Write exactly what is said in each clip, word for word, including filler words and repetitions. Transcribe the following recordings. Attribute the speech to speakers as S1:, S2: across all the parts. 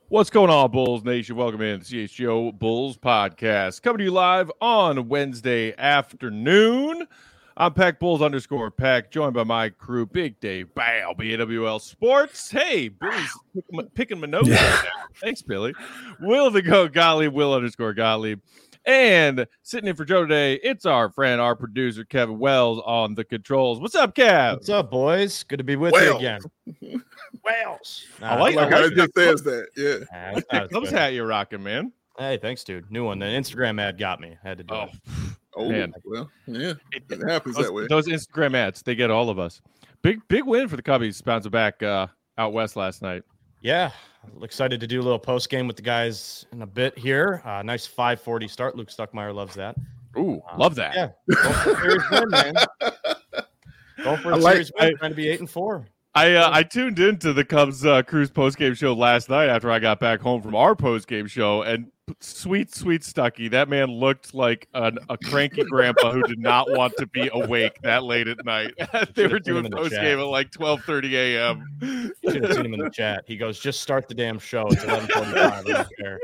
S1: What's going on, Bulls Nation? Welcome in to C H G O Bulls Podcast. Coming to you live on Wednesday afternoon. I'm Peck Bulls underscore Peck, joined by my crew, Big Dave Bow, B A W L Sports. Hey, Billy's picking, picking my nose right now. Thanks, Billy. Will the Go Gottlieb, Will underscore Gottlieb. And sitting in for Joe today, it's our friend, our producer, Kevin Wells on the controls. What's up, Kev?
S2: What's up, boys? Good to be with
S3: Well.
S2: you again. Wells.
S1: I like,
S3: like
S1: I
S3: how
S1: like
S3: it just says that. Yeah.
S2: Nah,
S1: I like that Cubs hat you're rocking, man.
S2: Hey, thanks, dude. New one. The Instagram ad got me. I had to do
S1: Oh,
S2: it.
S3: Oh,
S1: Man.
S3: well, yeah.
S1: It-
S3: It happens
S1: those,
S3: that way.
S1: those Instagram ads, they get all of us. Big, big win for the Cubbies, bouncing back uh, out west last night.
S2: Yeah, excited to do a little post game with the guys in a bit here. Uh, nice five forty start. Luke Stuckmeyer loves that.
S1: Ooh,
S2: Um,
S1: love that.
S2: Yeah, go for a series win, man. Go for a
S3: I like-
S2: series win. Trying to be eight and four.
S1: I uh, I tuned into the Cubs uh, Cruise postgame show last night after I got back home from our postgame show, and sweet, sweet Stucky, that man looked like an, a cranky grandpa who did not want to be awake that late at night. They were
S2: Should've seen him
S1: doing
S2: in the
S1: postgame
S2: chat.
S1: at like twelve thirty a.m.
S2: You should have seen him in the chat. He goes, "Just start the damn show. It's eleven forty-five. I don't care."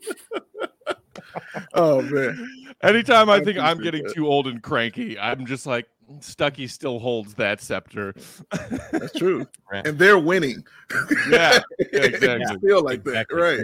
S3: Oh, man.
S1: Anytime I
S3: I
S1: think I'm
S3: appreciate
S1: getting
S3: that.
S1: too old and cranky, I'm just like, Stucky still holds that scepter.
S3: That's true.
S2: Right.
S3: And they're winning.
S1: Yeah, exactly.
S3: It's still like that.
S2: Exactly.
S3: Right.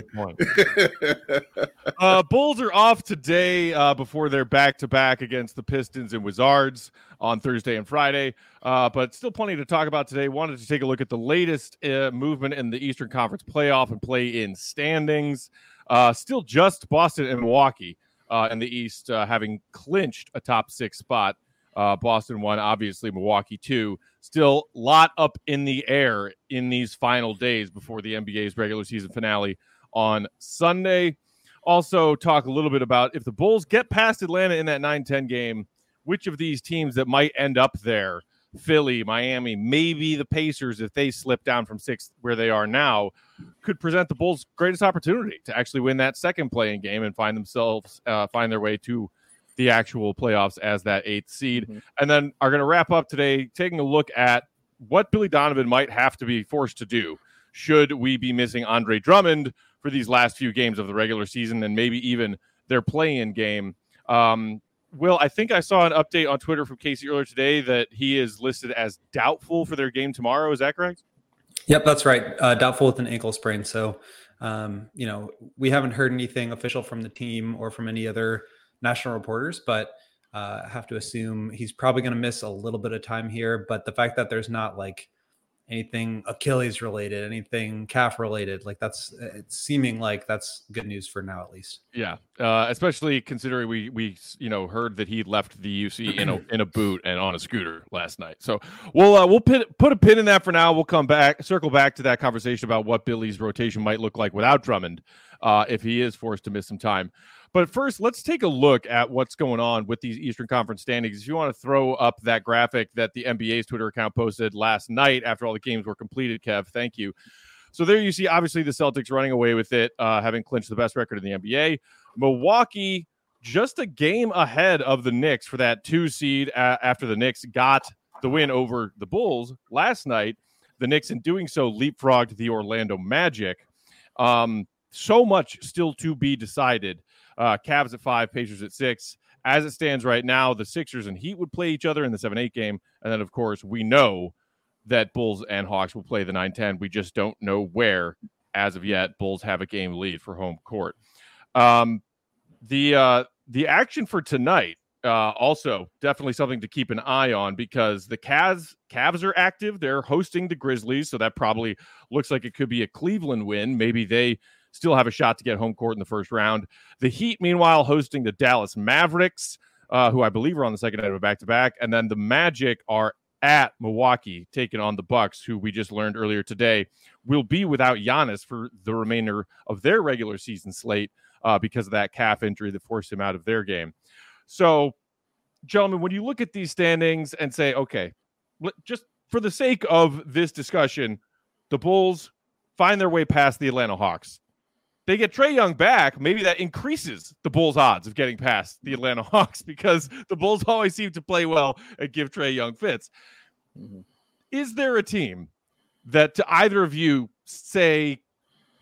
S2: Good point.
S1: Uh, Bulls are off today uh, before they're back-to-back against the Pistons and Wizards on Thursday and Friday. Uh, but still plenty to talk about today. Wanted to take a look at the latest uh, movement in the Eastern Conference playoff and play-in standings. Uh, still just Boston and Milwaukee uh, in the East uh, having clinched a top six spot. Uh, Boston won, obviously, Milwaukee two. Still a lot up in the air in these final days before the N B A's regular season finale on Sunday. Also talk a little bit about if the Bulls get past Atlanta in that nine ten game, which of these teams that might end up there, Philly, Miami, maybe the Pacers, if they slip down from sixth where they are now, could present the Bulls' greatest opportunity to actually win that second playing game and find themselves, uh, find their way to the actual playoffs as that eighth seed.
S3: Mm-hmm.
S1: And then are going to wrap up today taking a look at what Billy Donovan might have to be forced to do should we be missing Andre Drummond for these last few games of the regular season and maybe even their play-in game. Um, Will, I think I saw an update on Twitter from Casey earlier today that he is listed as doubtful for their game tomorrow. Is that correct?
S4: Yep, that's right. Uh, doubtful with an ankle sprain. So, um, you know, we haven't heard anything official from the team or from any other national reporters, but uh, I have to assume he's probably going to miss a little bit of time here. But the fact that there's not like anything Achilles related, anything calf related, like that's it's seeming like that's good news for now, at least.
S1: Yeah, uh, especially considering we we you know heard that he left the U C in a in a boot and on a scooter last night. So we'll uh, we'll put put a pin in that for now. We'll come back, circle back to that conversation about what Billy's rotation might look like without Drummond uh, if he is forced to miss some time. But first, let's take a look at what's going on with these Eastern Conference standings. If you want to throw up that graphic that the N B A's Twitter account posted last night after all the games were completed, Kev, thank you. So there you see, obviously, the Celtics running away with it, uh, having clinched the best record in the N B A. Milwaukee just a game ahead of the Knicks for that two seed uh, after the Knicks got the win over the Bulls last night. The Knicks, in doing so, leapfrogged the Orlando Magic. Um, so much still to be decided. Uh, Cavs at five, Pacers at six. As it stands right now, the Sixers and Heat would play each other in the seven eight game. And then, of course, we know that Bulls and Hawks will play the nine ten. We just don't know where as of yet. Bulls have a game lead for home court. Um, the uh, the action for tonight, uh, also definitely something to keep an eye on because the Cavs, Cavs are active. They're hosting the Grizzlies, so that probably looks like it could be a Cleveland win. Maybe they still have a shot to get home court in the first round. The Heat, meanwhile, hosting the Dallas Mavericks, uh, who I believe are on the second night of a back-to-back. And then the Magic are at Milwaukee, taking on the Bucks, who we just learned earlier today will be without Giannis for the remainder of their regular season slate uh, because of that calf injury that forced him out of their game. So, gentlemen, when you look at these standings and say, okay, just for the sake of this discussion, the Bulls find their way past the Atlanta Hawks. They get Trae Young back, maybe that increases the Bulls' odds of getting past the Atlanta Hawks because the Bulls always seem to play well and give Trae Young fits. Mm-hmm. Is there a team that to either of you say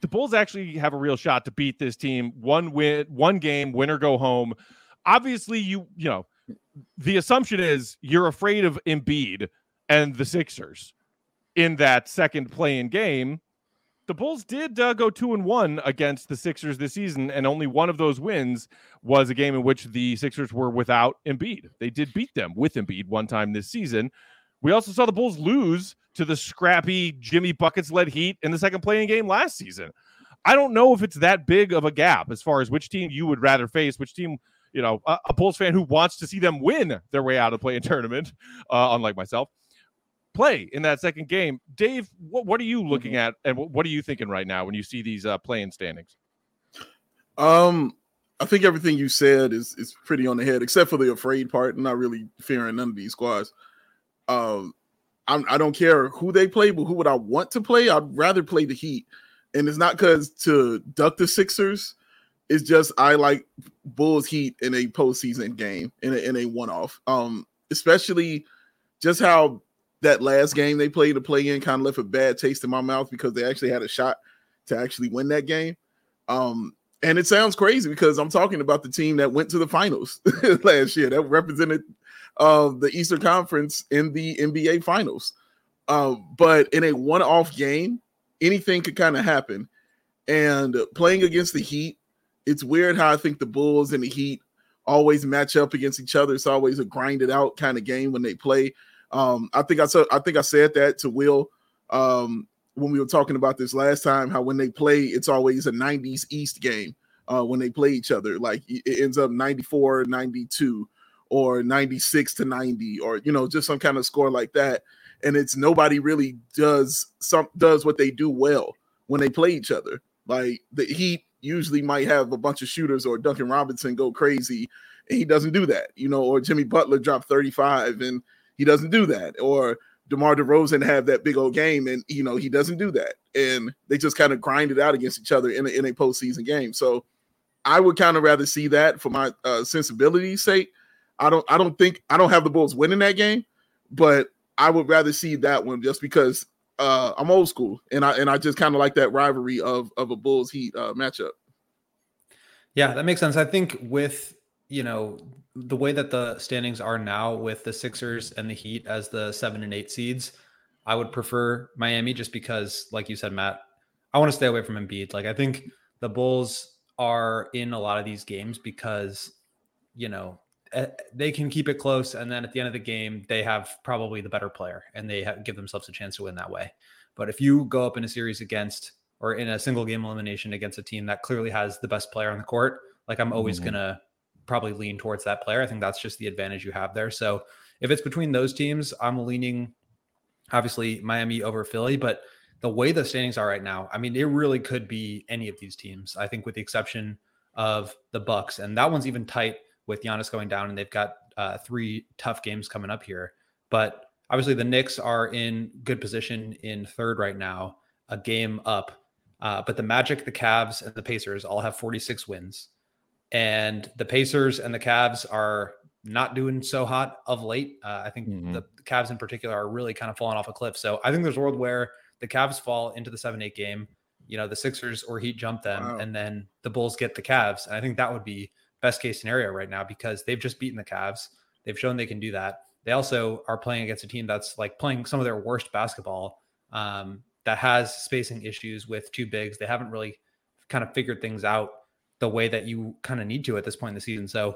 S1: the Bulls actually have a real shot to beat this team. One win, one game, win or go home. Obviously, you you know, the assumption is you're afraid of Embiid and the Sixers in that second play-in game. The Bulls did uh, go two and one against the Sixers this season, and only one of those wins was a game in which the Sixers were without Embiid. They did beat them with Embiid one time this season. We also saw the Bulls lose to the scrappy Jimmy Buckets-led Heat in the second play-in game last season. I don't know if it's that big of a gap as far as which team you would rather face, which team, you know, a, a Bulls fan who wants to see them win their way out of the play-in tournament, uh, unlike myself, play in that second game. Dave, what, what are you looking at, and what, what are you thinking right now when you see these uh, play-in standings?
S3: Um, I think everything you said is is pretty on the head, except for the afraid part. I'm not really fearing none of these squads. Um, I'm, I don't care who they play, but who would I want to play? I'd rather play the Heat, and it's not because to duck the Sixers. It's just I like Bulls Heat in a postseason game, in a, in a one-off. Um, especially just how that last game they played to play in kind of left a bad taste in my mouth because they actually had a shot to actually win that game. Um, and it sounds crazy because I'm talking about the team that went to the finals last year that represented uh, the Eastern Conference in the N B A finals. Uh, but in a one-off game, anything could kind of happen. And playing against the Heat, it's weird how I think the Bulls and the Heat always match up against each other. It's always a grinded out kind of game when they play. Um, I think I said I think I said that to Will um, when we were talking about this last time. How when they play, it's always a nineties East game uh, when they play each other. Like it ends up ninety-four ninety-two or ninety-six to ninety, or you know, just some kind of score like that. And it's nobody really does some does what they do well when they play each other. Like the Heat usually might have a bunch of shooters, or Duncan Robinson go crazy, and he doesn't do that. You know, or Jimmy Butler drop thirty-five and he doesn't do that. Or DeMar DeRozan have that big old game, and you know he doesn't do that. And they just kind of grind it out against each other in a, in a postseason game. So I would kind of rather see that for my uh, sensibility's sake. I don't I don't think I don't have the Bulls winning that game, but I would rather see that one just because uh, I'm old school, and I and I just kind of like that rivalry of of a Bulls Heat uh, matchup.
S4: Yeah, that makes sense. I think with you know. the way that the standings are now with the Sixers and the Heat as the seven and eight seeds, I would prefer Miami just because, like you said, Matt, I want to stay away from Embiid. Like, I think the Bulls are in a lot of these games because, you know, they can keep it close. And then at the end of the game, they have probably the better player and they have, give themselves a chance to win that way. But if you go up in a series against, or in a single game elimination against a team that clearly has the best player on the court, like I'm always mm-hmm. going to probably lean towards that player. I think that's just the advantage you have there. So if it's between those teams, I'm leaning obviously Miami over Philly, but the way the standings are right now, I mean, it really could be any of these teams, I think, with the exception of the Bucks. And that one's even tight with Giannis going down, and they've got uh, three tough games coming up here. But obviously the Knicks are in good position in third right now, a game up. Uh, but the Magic, the Cavs, and the Pacers all have forty-six wins. And the Pacers and the Cavs are not doing so hot of late. Uh, I think mm-hmm. the, the Cavs in particular are really kind of falling off a cliff. So I think there's a world where the Cavs fall into the seven eight game, you know, the Sixers or Heat jump them, wow. and then the Bulls get the Cavs. And I think that would be best case scenario right now because they've just beaten the Cavs. They've shown they can do that. They also are playing against a team that's like playing some of their worst basketball, um, that has spacing issues with two bigs. They haven't really kind of figured things out the way that you kind of need to at this point in the season. So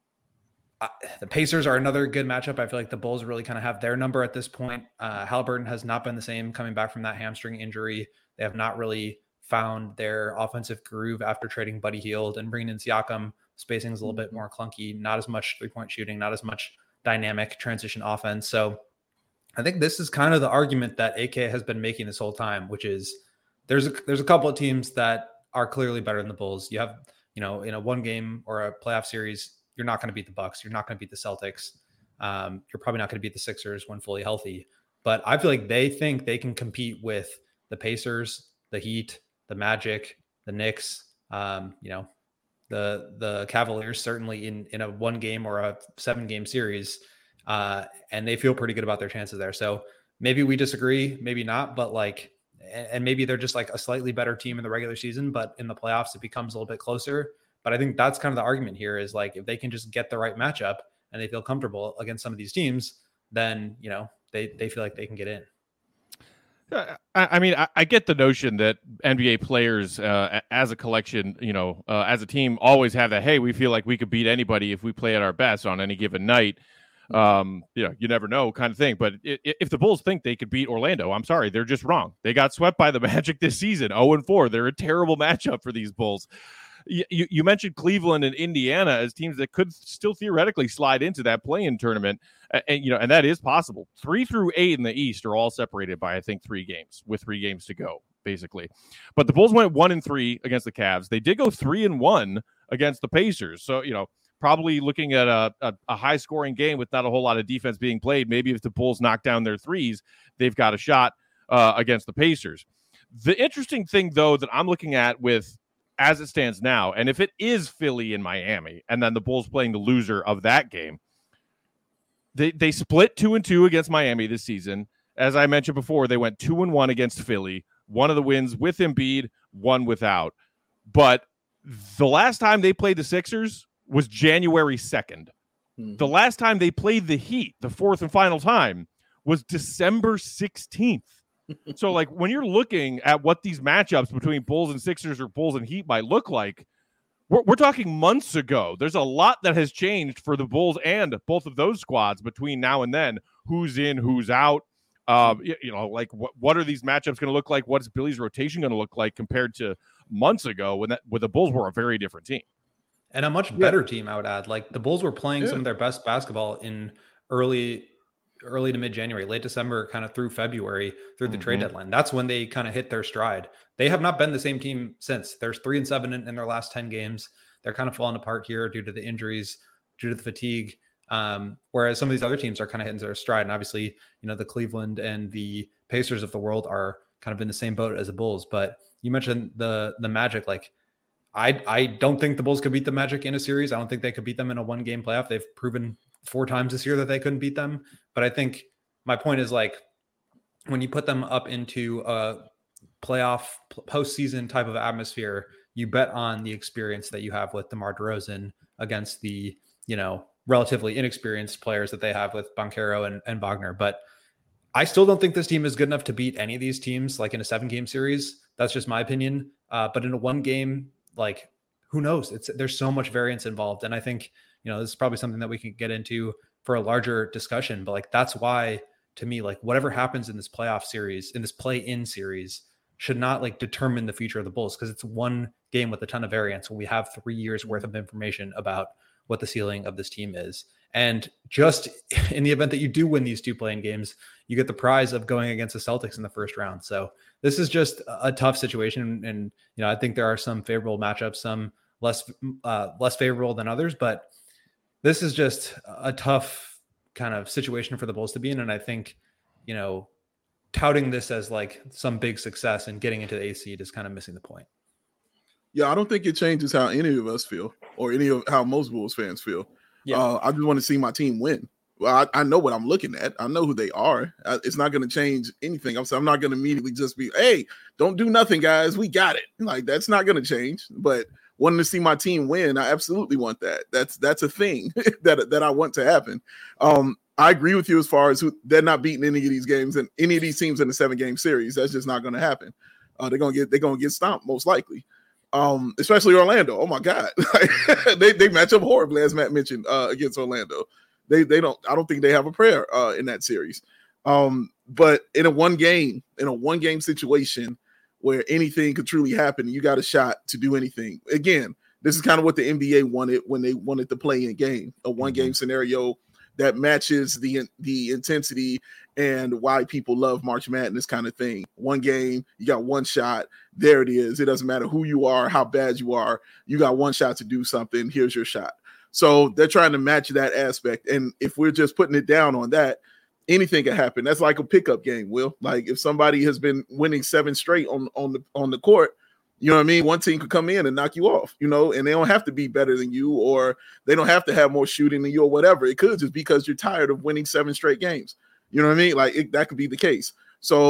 S4: uh, the Pacers are another good matchup. I feel like the Bulls really kind of have their number at this point. Uh, Halliburton has not been the same coming back from that hamstring injury. They have not really found their offensive groove after trading Buddy Hield and bringing in Siakam. Spacing is a little bit more clunky, not as much three-point shooting, not as much dynamic transition offense. So I think this is kind of the argument that A K has been making this whole time, which is there's a, there's a couple of teams that are clearly better than the Bulls. You have, you know, in a one game or a playoff series, you're not going to beat the Bucks. You're not going to beat the Celtics. Um, you're probably not going to beat the Sixers when fully healthy. But I feel like they think they can compete with the Pacers, the Heat, the Magic, the Knicks, um, you know, the the Cavaliers, certainly in, in a one game or a seven game series. Uh, and they feel pretty good about their chances there. So maybe we disagree, maybe not, but like and maybe they're just like a slightly better team in the regular season, but in the playoffs, it becomes a little bit closer. But I think that's kind of the argument here is like, if they can just get the right matchup and they feel comfortable against some of these teams, then, you know, they, they feel like they can get in.
S1: I, I mean, I, I get the notion that N B A players uh, as a collection, you know, uh, as a team always have that, hey, we feel like we could beat anybody if we play at our best on any given night. Um, you know, you never know kind of thing. But it, if the Bulls think they could beat Orlando, I'm sorry, they're just wrong. They got swept by the Magic this season, oh and four. They're a terrible matchup for these Bulls. You, you mentioned Cleveland and Indiana as teams that could still theoretically slide into that play-in tournament, and, and you know, and that is possible. Three through eight in the East are all separated by I think three games, with three games to go, basically. But the Bulls went one and three against the Cavs. They did go three and one against the Pacers. So you know, probably looking at a, a, a high-scoring game with not a whole lot of defense being played. Maybe if the Bulls knock down their threes, they've got a shot uh, against the Pacers. The interesting thing, though, that I'm looking at with as it stands now, and if it is Philly and Miami, and then the Bulls playing the loser of that game, they they split two and two against Miami this season. As I mentioned before, they went two and one against Philly. One of the wins with Embiid, one without. But the last time they played the Sixers was January second. Mm-hmm. The last time they played the Heat, the fourth and final time, was December sixteenth. So, like, when you're looking at what these matchups between Bulls and Sixers or Bulls and Heat might look like, we're, we're talking months ago. There's a lot that has changed for the Bulls and both of those squads between now and then. Who's in, who's out? Um, you, you know, like, what, what are these matchups going to look like? What's Billy's rotation going to look like compared to months ago when that when the Bulls were a very different team?
S4: And a much better yeah. team, I would add. Like, the Bulls were playing yeah. some of their best basketball in early early to mid-January, late December, kind of through February, through the mm-hmm. trade deadline. That's when they kind of hit their stride. They have not been the same team since. There's three and seven in, in their last ten games. They're kind of falling apart here due to the injuries, due to the fatigue. Um, whereas some of these other teams are kind of hitting their stride. And obviously, you know, the Cleveland and the Pacers of the world are kind of in the same boat as the Bulls. But you mentioned the the Magic. Like, I I don't think the Bulls could beat the Magic in a series. I don't think they could beat them in a one-game playoff. They've proven four times this year that they couldn't beat them. But I think my point is, like, when you put them up into a playoff postseason type of atmosphere, you bet on the experience that you have with DeMar DeRozan against the, you know, relatively inexperienced players that they have with Banchero and, and Wagner. But I still don't think this team is good enough to beat any of these teams, like in a seven game series. That's just my opinion. Uh, but in a one game, like, who knows? It's there's so much variance involved. And I think, you know, this is probably something that we can get into for a larger discussion, but like, that's why, to me, like, whatever happens in this playoff series, in this play-in series, should not like determine the future of the Bulls, because it's one game with a ton of variance when we have three years worth of information about what the ceiling of this team is. And just in the event that you do win these two play-in games, you get the prize of going against the Celtics in the first round. So this is just a tough situation. And, you know, I think there are some favorable matchups, some less, uh, less favorable than others, but this is just a tough kind of situation for the Bulls to be in. And I think, you know, touting this as like some big success and getting into the eighth seed is kind of missing the point.
S3: Yeah, I don't think it changes how any of us feel or any of how most Bulls fans feel. Yeah. Uh, I just want to see my team win. Well, I, I know what I'm looking at. I know who they are. I, it's not going to change anything. I'm, I'm not going to immediately just be, hey, don't do nothing, guys. We got it. Like, that's not going to change. But wanting to see my team win, I absolutely want that. That's that's a thing that that I want to happen. Um, I agree with you as far as who, they're not beating any of these games and any of these teams in the seven game series. That's just not going to happen. Uh, they're gonna get they're gonna get stomped most likely. Um, especially Orlando. Oh my God, they they match up horribly, as Matt mentioned, uh, against Orlando. They they don't. I don't think they have a prayer uh, in that series. Um, but in a one game, in a one game situation where anything could truly happen, you got a shot to do anything. Again, this is kind of what the N B A wanted when they wanted to play in game, a one game mm-hmm. scenario that matches the the intensity and why people love March Madness kind of thing. One game, you got one shot. There it is. It doesn't matter who you are, how bad you are. You got one shot to do something. Here's your shot. So they're trying to match that aspect. And if we're just putting it down on that, anything can happen. That's like a pickup game, Will. Like if somebody has been winning seven straight on, on the on the court, you know what I mean? One team could come in and knock you off, you know, and they don't have to be better than you, or they don't have to have more shooting than you, or whatever. It could just be because you're tired of winning seven straight games. You know what I mean? Like it, that could be the case. So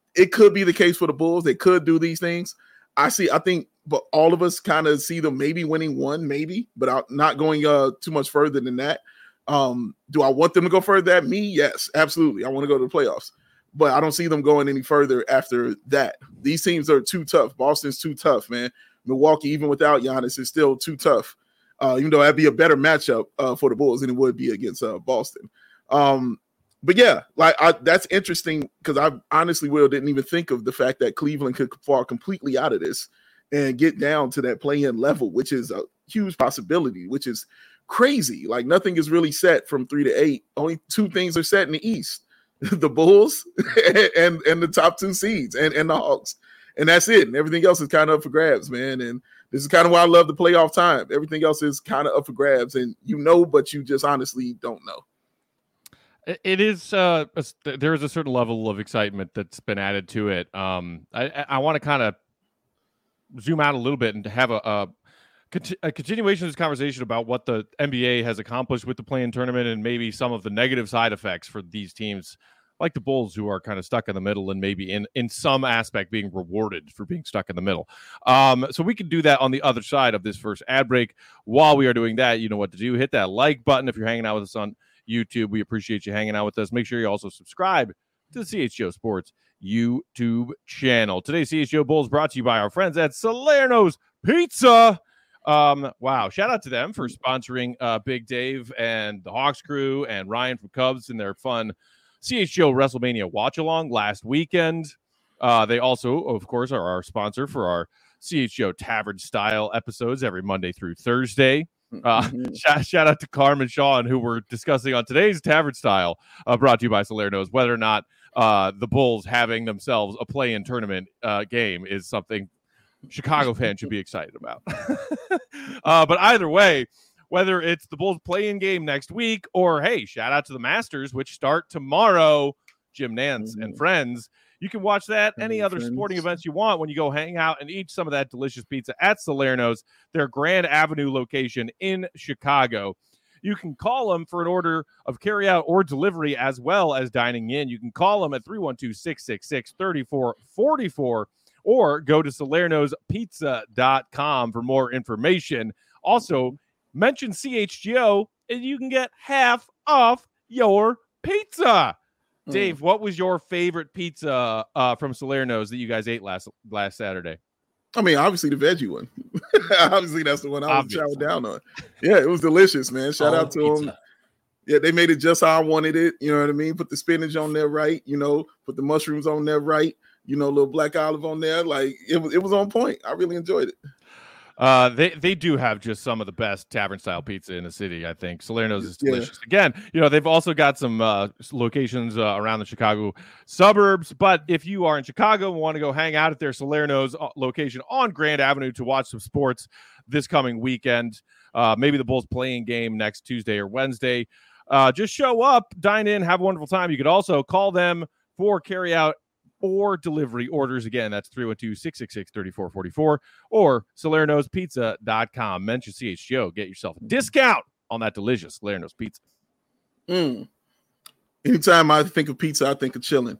S3: it could be the case for the Bulls. They could do these things. I see. I think, but all of us kind of see them maybe winning one, maybe, but I'm not going uh, too much further than that. Um, do I want them to go further than me? Yes, absolutely. I want to go to the playoffs, but I don't see them going any further after that. These teams are too tough. Boston's too tough, man. Milwaukee, even without Giannis, is still too tough. Uh, even though that'd be a better matchup uh, for the Bulls than it would be against uh, Boston. Um, but yeah, like I, that's interesting because I honestly, Will, didn't even think of the fact that Cleveland could fall completely out of this and get down to that play-in level, which is a huge possibility, which is crazy. Like nothing is really set from three to eight. Only two things are set in the East: the Bulls and and the top two seeds and, and the Hawks. And that's it. And everything else is kind of up for grabs, man. And this is kind of why I love the playoff time. Everything else is kind of up for grabs. And you know, but you just honestly don't know.
S1: It is. Uh, a, there is a certain level of excitement that's been added to it. Um, I, I want to kind of zoom out a little bit and have a, a, a continuation of this conversation about what the N B A has accomplished with the play-in tournament and maybe some of the negative side effects for these teams like the Bulls, who are kind of stuck in the middle and maybe in, in some aspect being rewarded for being stuck in the middle. Um, so we can do that on the other side of this first ad break. While we are doing that, you know what to do. Hit that like button if you're hanging out with us on YouTube. We appreciate you hanging out with us. Make sure you also subscribe to the C H G O Sports YouTube channel. Today's C H G O Bulls brought to you by our friends at Salerno's Pizza. Um, wow. Shout out to them for sponsoring uh, Big Dave and the Hawks crew and Ryan from Cubs and their fun C H G O WrestleMania watch-along last weekend. Uh, they also, of course, are our sponsor for our C H G O Tavern-style episodes every Monday through Thursday. Uh, shout, shout out to Carm and Sean, who we're discussing on today's Tavern Style, uh, brought to you by Salerno's, whether or not uh, the Bulls having themselves a play-in tournament uh, game is something Chicago fans should be excited about. uh, but either way, whether it's the Bulls play-in game next week or, hey, shout out to the Masters, which start tomorrow, Jim Nance mm-hmm. and friends. You can watch that, any mm-hmm. other sporting events you want when you go hang out and eat some of that delicious pizza at Salerno's, their Grand Avenue location in Chicago. You can call them for an order of carryout or delivery as well as dining in. You can call them at three one two, six six six, three four four four or go to salernos pizza dot com for more information. Also, mention C H G O and you can get half off your pizza. Mm. Dave, what was your favorite pizza uh, from Salerno's that you guys ate last last Saturday?
S3: I mean, obviously the veggie one. Obviously, that's the one I was chowing down on. Yeah, it was delicious, man. Shout All out to pizza. them. Yeah, they made it just how I wanted it. You know what I mean? Put the spinach on there right. You know, put the mushrooms on there right. You know, a little black olive on there. Like, it was, it was on point. I really enjoyed it.
S1: Uh, they they do have just some of the best tavern style pizza in the city. I think Salerno's is delicious. Yeah. Again, you know, they've also got some uh, locations uh, around the Chicago suburbs. But if you are in Chicago and want to go hang out at their Salerno's location on Grand Avenue to watch some sports this coming weekend, uh, maybe the Bulls playing game next Tuesday or Wednesday, uh, just show up, dine in, have a wonderful time. You could also call them for carry out or delivery orders. Again, that's three one two, six six six, three four four four or salernos pizza dot com. Mention C H G O. Get yourself a discount on that delicious Salerno's pizza.
S3: Mm. Anytime I think of pizza, I think of chilling.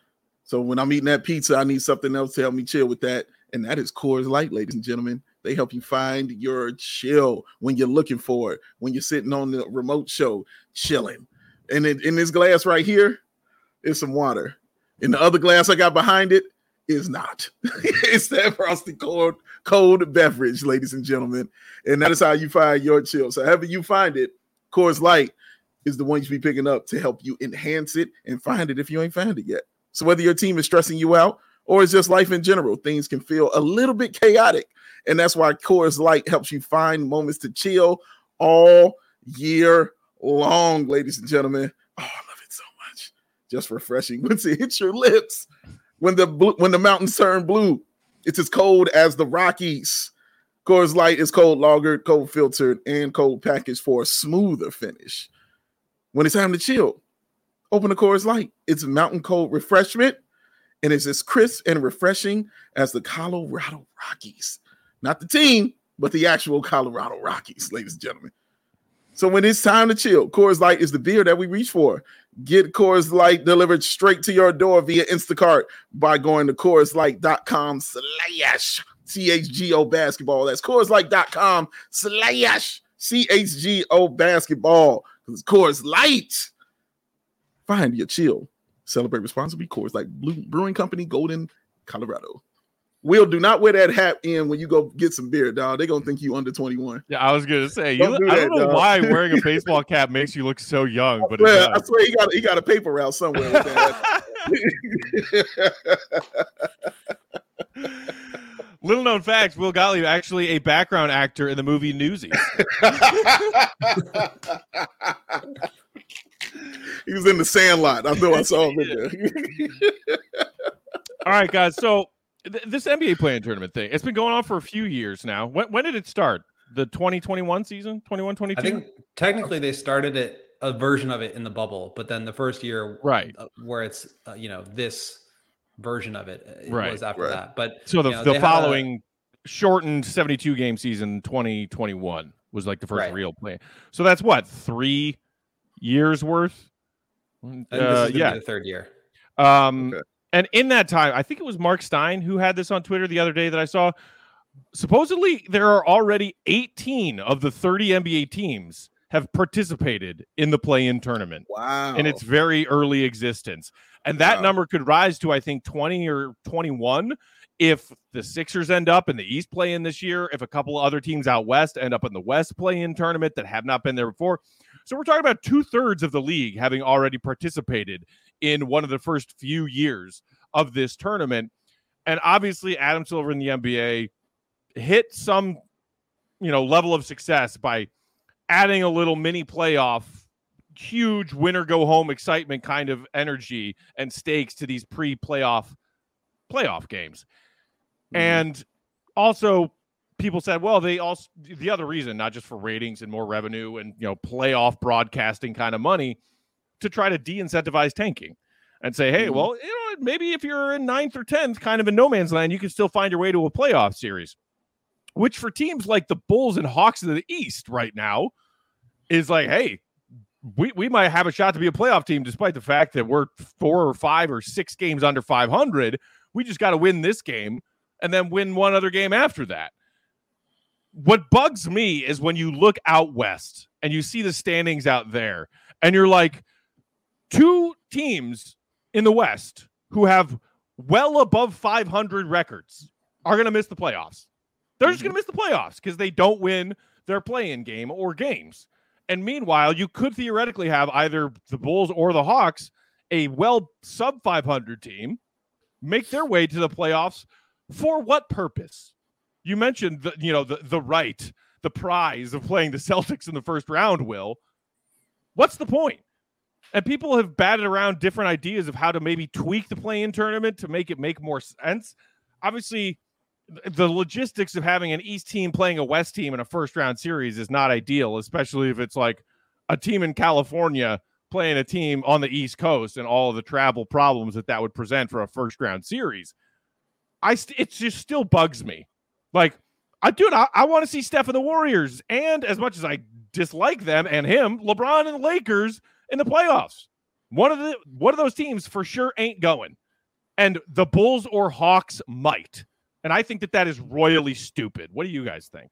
S3: So when I'm eating that pizza, I need something else to help me chill with that. And that is Coors Light, ladies and gentlemen. They help you find your chill when you're looking for it, when you're sitting on the remote show, chilling. And in, in this glass right here is some water. And the other glass I got behind it is not. It's that frosty cold, cold beverage, ladies and gentlemen. And that is how you find your chill. So however you find it, Coors Light is the one you should be picking up to help you enhance it and find it if you ain't found it yet. So whether your team is stressing you out or it's just life in general, things can feel a little bit chaotic. And that's why Coors Light helps you find moments to chill all year long, ladies and gentlemen. Oh, I love it so much. Just refreshing once it hits your lips. When the when the mountains turn blue, it's as cold as the Rockies. Coors Light is cold lagered, cold filtered, and cold packaged for a smoother finish. When it's time to chill, open a Coors Light. It's a mountain cold refreshment, and it's as crisp and refreshing as the Colorado Rockies. Not the team, but the actual Colorado Rockies, ladies and gentlemen. So when it's time to chill, Coors Light is the beer that we reach for. Get Coors Light delivered straight to your door via Instacart by going to CoorsLight.com slash CHGO basketball. That's CoorsLight.com slash CHGO basketball. Because Coors Light, find your chill. Celebrate responsibly. Coors Light Brewing Company, Golden, Colorado. Will, do not wear that hat in when you go get some beer, dog. They're going to think you under twenty-one.
S1: Yeah, I was going to say, you,
S3: Don't do
S1: I
S3: that,
S1: don't know
S3: dog.
S1: why wearing a baseball cap makes you look so young, but
S3: I
S1: it
S3: swear, I
S1: does.
S3: swear he got, he got a paper route somewhere with that.
S1: Little known facts, Will Gottlieb actually a background actor in the movie Newsies.
S3: He was in the Sandlot. I know I saw him in there.
S1: All right, guys. So th- this N B A play-in tournament thing, it's been going on for a few years now. When, when did it start? The twenty twenty-one season? twenty-one twenty-two?
S4: I think technically they started it, a version of it in the bubble, but then the first year
S1: Right.
S4: uh, where it's, uh, you know, this version of it, it
S1: Right,
S4: was after
S3: right.
S4: that. But
S1: So the,
S4: you know,
S1: the
S4: they had a-
S1: following shortened seventy-two game season, twenty twenty-one, was like the first
S4: Right.
S1: real play. So that's what, three years worth?
S4: and
S1: Uh,
S4: this is gonna
S1: yeah.
S4: be the third year.
S1: Um,
S3: Okay.
S1: And in that time, I think it was Mark Stein who had this on Twitter the other day that I saw. Supposedly, there are already eighteen of the thirty N B A teams have participated in the play-in tournament
S3: Wow.
S1: in its very early existence. And that
S3: Wow.
S1: number could rise to, I think, twenty or twenty-one if the Sixers end up in the East play-in this year, if a couple of other teams out West end up in the West play-in tournament that have not been there before. So we're talking about two-thirds of the league having already participated in one of the first few years of this tournament. And obviously, Adam Silver in the N B A hit some, you know, level of success by adding a little mini playoff, huge winner go home excitement kind of energy and stakes to these pre-playoff playoff games.
S3: Mhm.
S1: And also people said, well, they also, the other reason, not just for ratings and more revenue and, you know, playoff broadcasting kind of money, to try to de-incentivize tanking and say, hey,
S3: Mhm.
S1: well, you know, maybe if you're in ninth or tenth, kind of in no man's land, you can still find your way to a playoff series, which for teams like the Bulls and Hawks in the East right now is like, hey, we, we might have a shot to be a playoff team, despite the fact that we're four or five or six games under five hundred. We just got to win this game and then win one other game after that. What bugs me is when you look out West and you see the standings out there and you're like, two teams in the West who have well above five hundred records are going to miss the playoffs. They're just going to miss the playoffs because they don't win their play-in game or games. And meanwhile, you could theoretically have either the Bulls or the Hawks, a well sub five hundred team, make their way to the playoffs. For what purpose? You mentioned the, you know, the, the right, the prize of playing the Celtics in the first round, Will. What's the point? And people have batted around different ideas of how to maybe tweak the play-in tournament to make it make more sense. Obviously, the logistics of having an East team playing a West team in a first-round series is not ideal, especially if it's like a team in California playing a team on the East Coast and all of the travel problems that that would present for a first-round series. I st- it just still bugs me. Like, I dude, I, I want to see Steph and the Warriors, and as much as I dislike them and him, LeBron and the Lakers in the playoffs. One of the one of those teams for sure ain't going, and the Bulls or Hawks might. And I think that that is royally stupid. What do you guys think?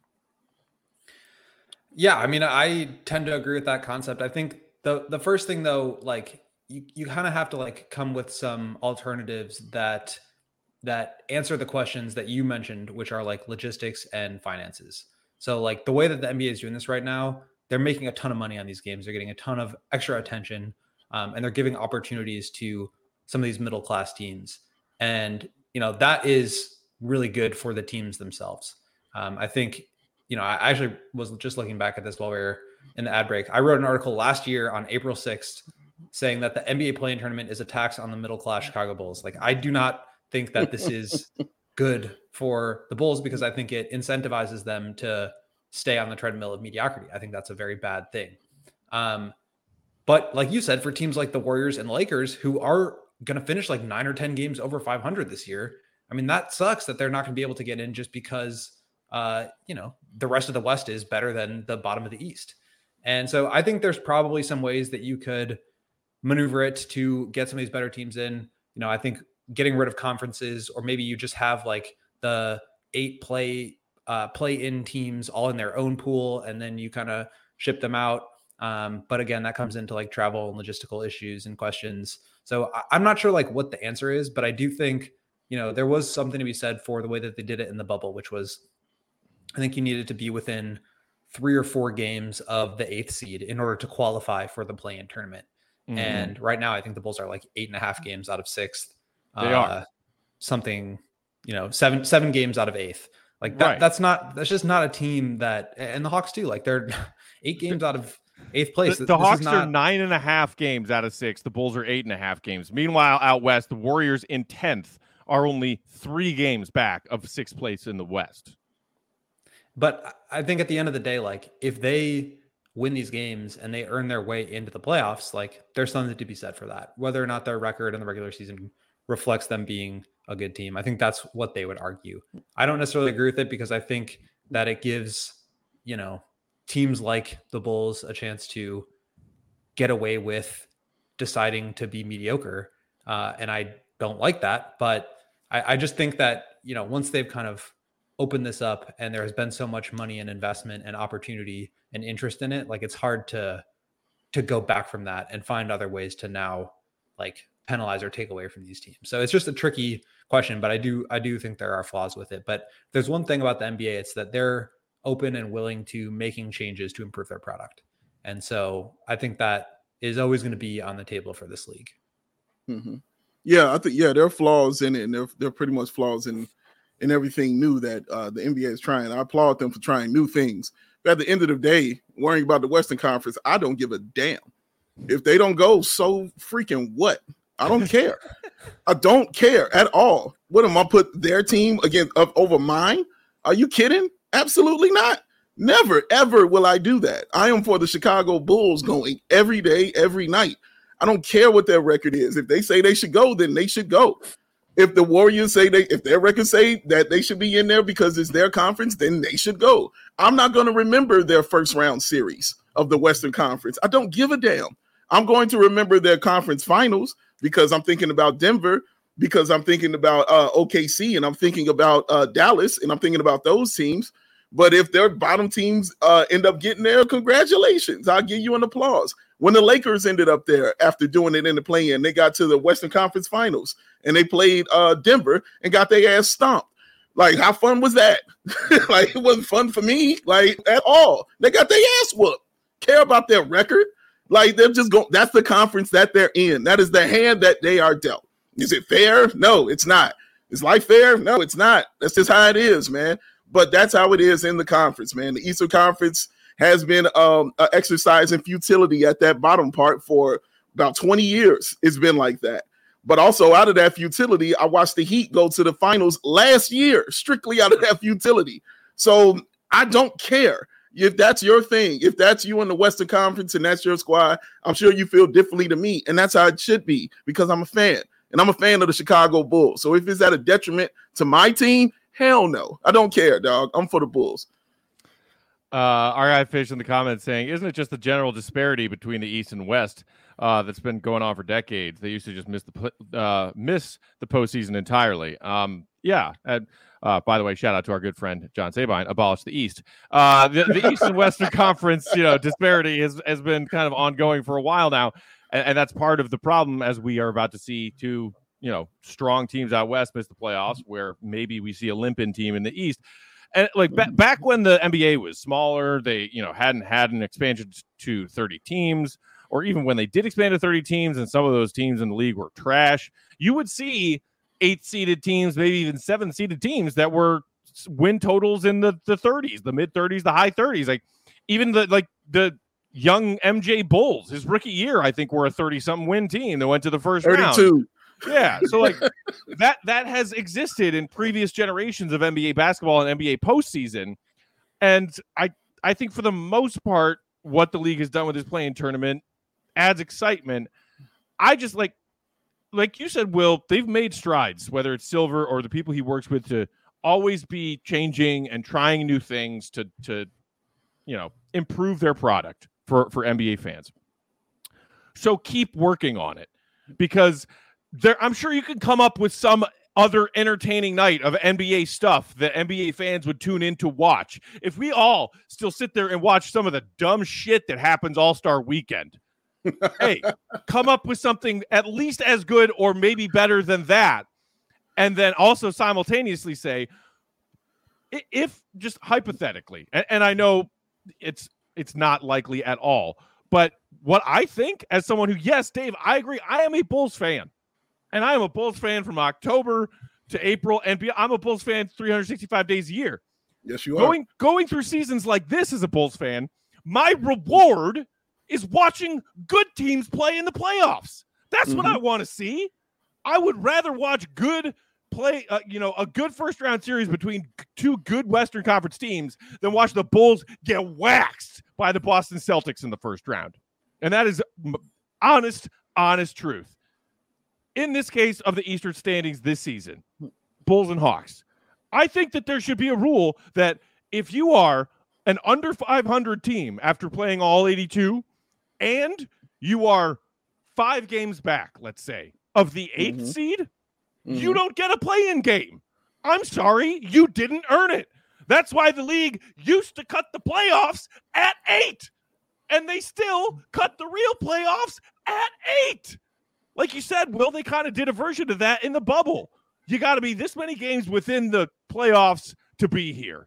S4: Yeah, I mean, I tend to agree with that concept. I think the the first thing though, like you, you kind of have to like come with some alternatives that that answer the questions that you mentioned, which are like logistics and finances. So like the way that the N B A is doing this right now, they're making a ton of money on these games. They're getting a ton of extra attention, um, and they're giving opportunities to some of these middle class teams. And you know that is really good for the teams themselves. Um, I think, you know, I actually was just looking back at this while we were in the ad break. I wrote an article last year on April sixth saying that the N B A play-in tournament is a tax on the middle-class Chicago Bulls. Like, I do not think that this is good for the Bulls because I think it incentivizes them to stay on the treadmill of mediocrity. I think that's a very bad thing. Um, but like you said, for teams like the Warriors and Lakers, who are going to finish like nine or ten games over five hundred this year, I mean, that sucks that they're not going to be able to get in just because, uh, you know, the rest of the West is better than the bottom of the East. And so I think there's probably some ways that you could maneuver it to get some of these better teams in. You know, I think getting rid of conferences, or maybe you just have like the eight play uh, play in teams all in their own pool, and then you kind of ship them out. Um, but again, that comes into like travel and logistical issues and questions. So I, I'm not sure like what the answer is, but I do think, you know, there was something to be said for the way that they did it in the bubble, which was, I think you needed to be within three or four games of the eighth seed in order to qualify for the play-in tournament. Mm-hmm. And right now, I think the Bulls are like eight and a half games out of sixth.
S1: They uh, are
S4: something, you know, seven seven games out of eighth. Like that,
S1: right.
S4: that's not that's just not a team that, and the Hawks too. Like they're eight games out of eighth place.
S1: The, the Hawks
S4: not...
S1: are nine and a half games out of six. The Bulls are eight and a half games. Meanwhile, out west, the Warriors in tenth are only three games back of sixth place in the West.
S4: But I think at the end of the day, like if they win these games and they earn their way into the playoffs, like there's something to be said for that. Whether or not their record in the regular season reflects them being a good team, I think that's what they would argue. I don't necessarily agree with it, because I think that it gives, you know, teams like the Bulls a chance to get away with deciding to be mediocre. Uh, and I don't like that, but I, I just think that, you know, once they've kind of opened this up and there has been so much money and investment and opportunity and interest in it, like it's hard to, to go back from that and find other ways to now like penalize or take away from these teams. So it's just a tricky question, but I do, I do think there are flaws with it. But there's one thing about the N B A, it's that they're open and willing to making changes to improve their product. And so I think that is always going to be on the table for this league.
S3: Mm-hmm. Yeah, I think, yeah, there are flaws in it, and they're, they're pretty much flaws in, in everything new that uh, the N B A is trying. I applaud them for trying new things. But at the end of the day, worrying about the Western Conference, I don't give a damn. If they don't go, so freaking what? I don't care. I don't care at all. What am I put their team against up over mine? Are you kidding? Absolutely not. Never, ever will I do that. I am for the Chicago Bulls going every day, every night. I don't care what their record is. If they say they should go, then they should go. If the Warriors say they, if their records say that they should be in there because it's their conference, then they should go. I'm not going to remember their first round series of the Western Conference. I don't give a damn. I'm going to remember their conference finals because I'm thinking about Denver, because I'm thinking about uh, O K C, and I'm thinking about uh, Dallas, and I'm thinking about those teams. But if their bottom teams uh, end up getting there, congratulations. I'll give you an applause. When the Lakers ended up there after doing it in the play-in, they got to the Western Conference Finals, and they played uh, Denver and got their ass stomped. Like, how fun was that? Like, it wasn't fun for me, like, at all. They got their ass whooped. Care about their record? Like, they're just going, that's the conference that they're in. That is the hand that they are dealt. Is it fair? No, it's not. Is life fair? No, it's not. That's just how it is, man. But that's how it is in the conference, man. The Eastern Conference has been um, an exercise in futility at that bottom part for about twenty years. It's been like that. But also out of that futility, I watched the Heat go to the finals last year, strictly out of that futility. So I don't care. If that's your thing, if that's you in the Western Conference and that's your squad, I'm sure you feel differently to me. And that's how it should be, because I'm a fan. And I'm a fan of the Chicago Bulls. So if it's at a detriment to my team, hell no. I don't care, dog. I'm for the Bulls.
S1: Uh, our guy Fish in the comments saying, isn't it just the general disparity between the East and West uh, that's been going on for decades? They used to just miss the uh, miss the postseason entirely. Um, yeah. And, uh, by the way, shout out to our good friend John Sabine. Abolish the East. Uh, the, the East and Western Conference, you know, disparity has has been kind of ongoing for a while now, and, and that's part of the problem, as we are about to see two, you know, strong teams out west miss the playoffs, where maybe we see a limping team in the East. And like ba- back when the N B A was smaller, they, you know, hadn't had an expansion to thirty teams, or even when they did expand to thirty teams and some of those teams in the league were trash, you would see eight seeded teams, maybe even seven seeded teams that were win totals in the, the thirties, the mid thirties, the high thirties. Like even the, like the young M J Bulls, his rookie year, I think were a thirty something win team that went to the first
S3: thirty-two
S1: round. Yeah, so like that that has existed in previous generations of N B A basketball and N B A postseason, and I I think for the most part, what the league has done with this play-in tournament adds excitement. I just like like you said, Will, they've made strides, whether it's Silver or the people he works with, to always be changing and trying new things to to you know improve their product for, for N B A fans. So keep working on it, because there, I'm sure you could come up with some other entertaining night of N B A stuff that N B A fans would tune in to watch. If we all still sit there and watch some of the dumb shit that happens All-Star Weekend, hey, come up with something at least as good or maybe better than that. And then also simultaneously say, if just hypothetically, and, and I know it's it's not likely at all, but what I think as someone who, yes, Dave, I agree, I am a Bulls fan. And I am a Bulls fan from October to April, and I'm a Bulls fan three hundred sixty-five days a year.
S3: Yes, you are.
S1: Going, going through seasons like this as a Bulls fan, my reward is watching good teams play in the playoffs. That's mm-hmm. what I want to see. I would rather watch good play, uh, you know, a good first-round series between two good Western Conference teams than watch the Bulls get waxed by the Boston Celtics in the first round. And that is honest, honest truth. In this case of the Eastern standings this season, Bulls and Hawks, I think that there should be a rule that if you are an under five hundred team after playing all eighty-two and you are five games back, let's say, of the eighth mm-hmm. seed, mm-hmm. you don't get a play-in game. I'm sorry, you didn't earn it. That's why the league used to cut the playoffs at eight, and they still cut the real playoffs at eight. Like you said, Will, they kind of did a version of that in the bubble. You got to be this many games within the playoffs to be here.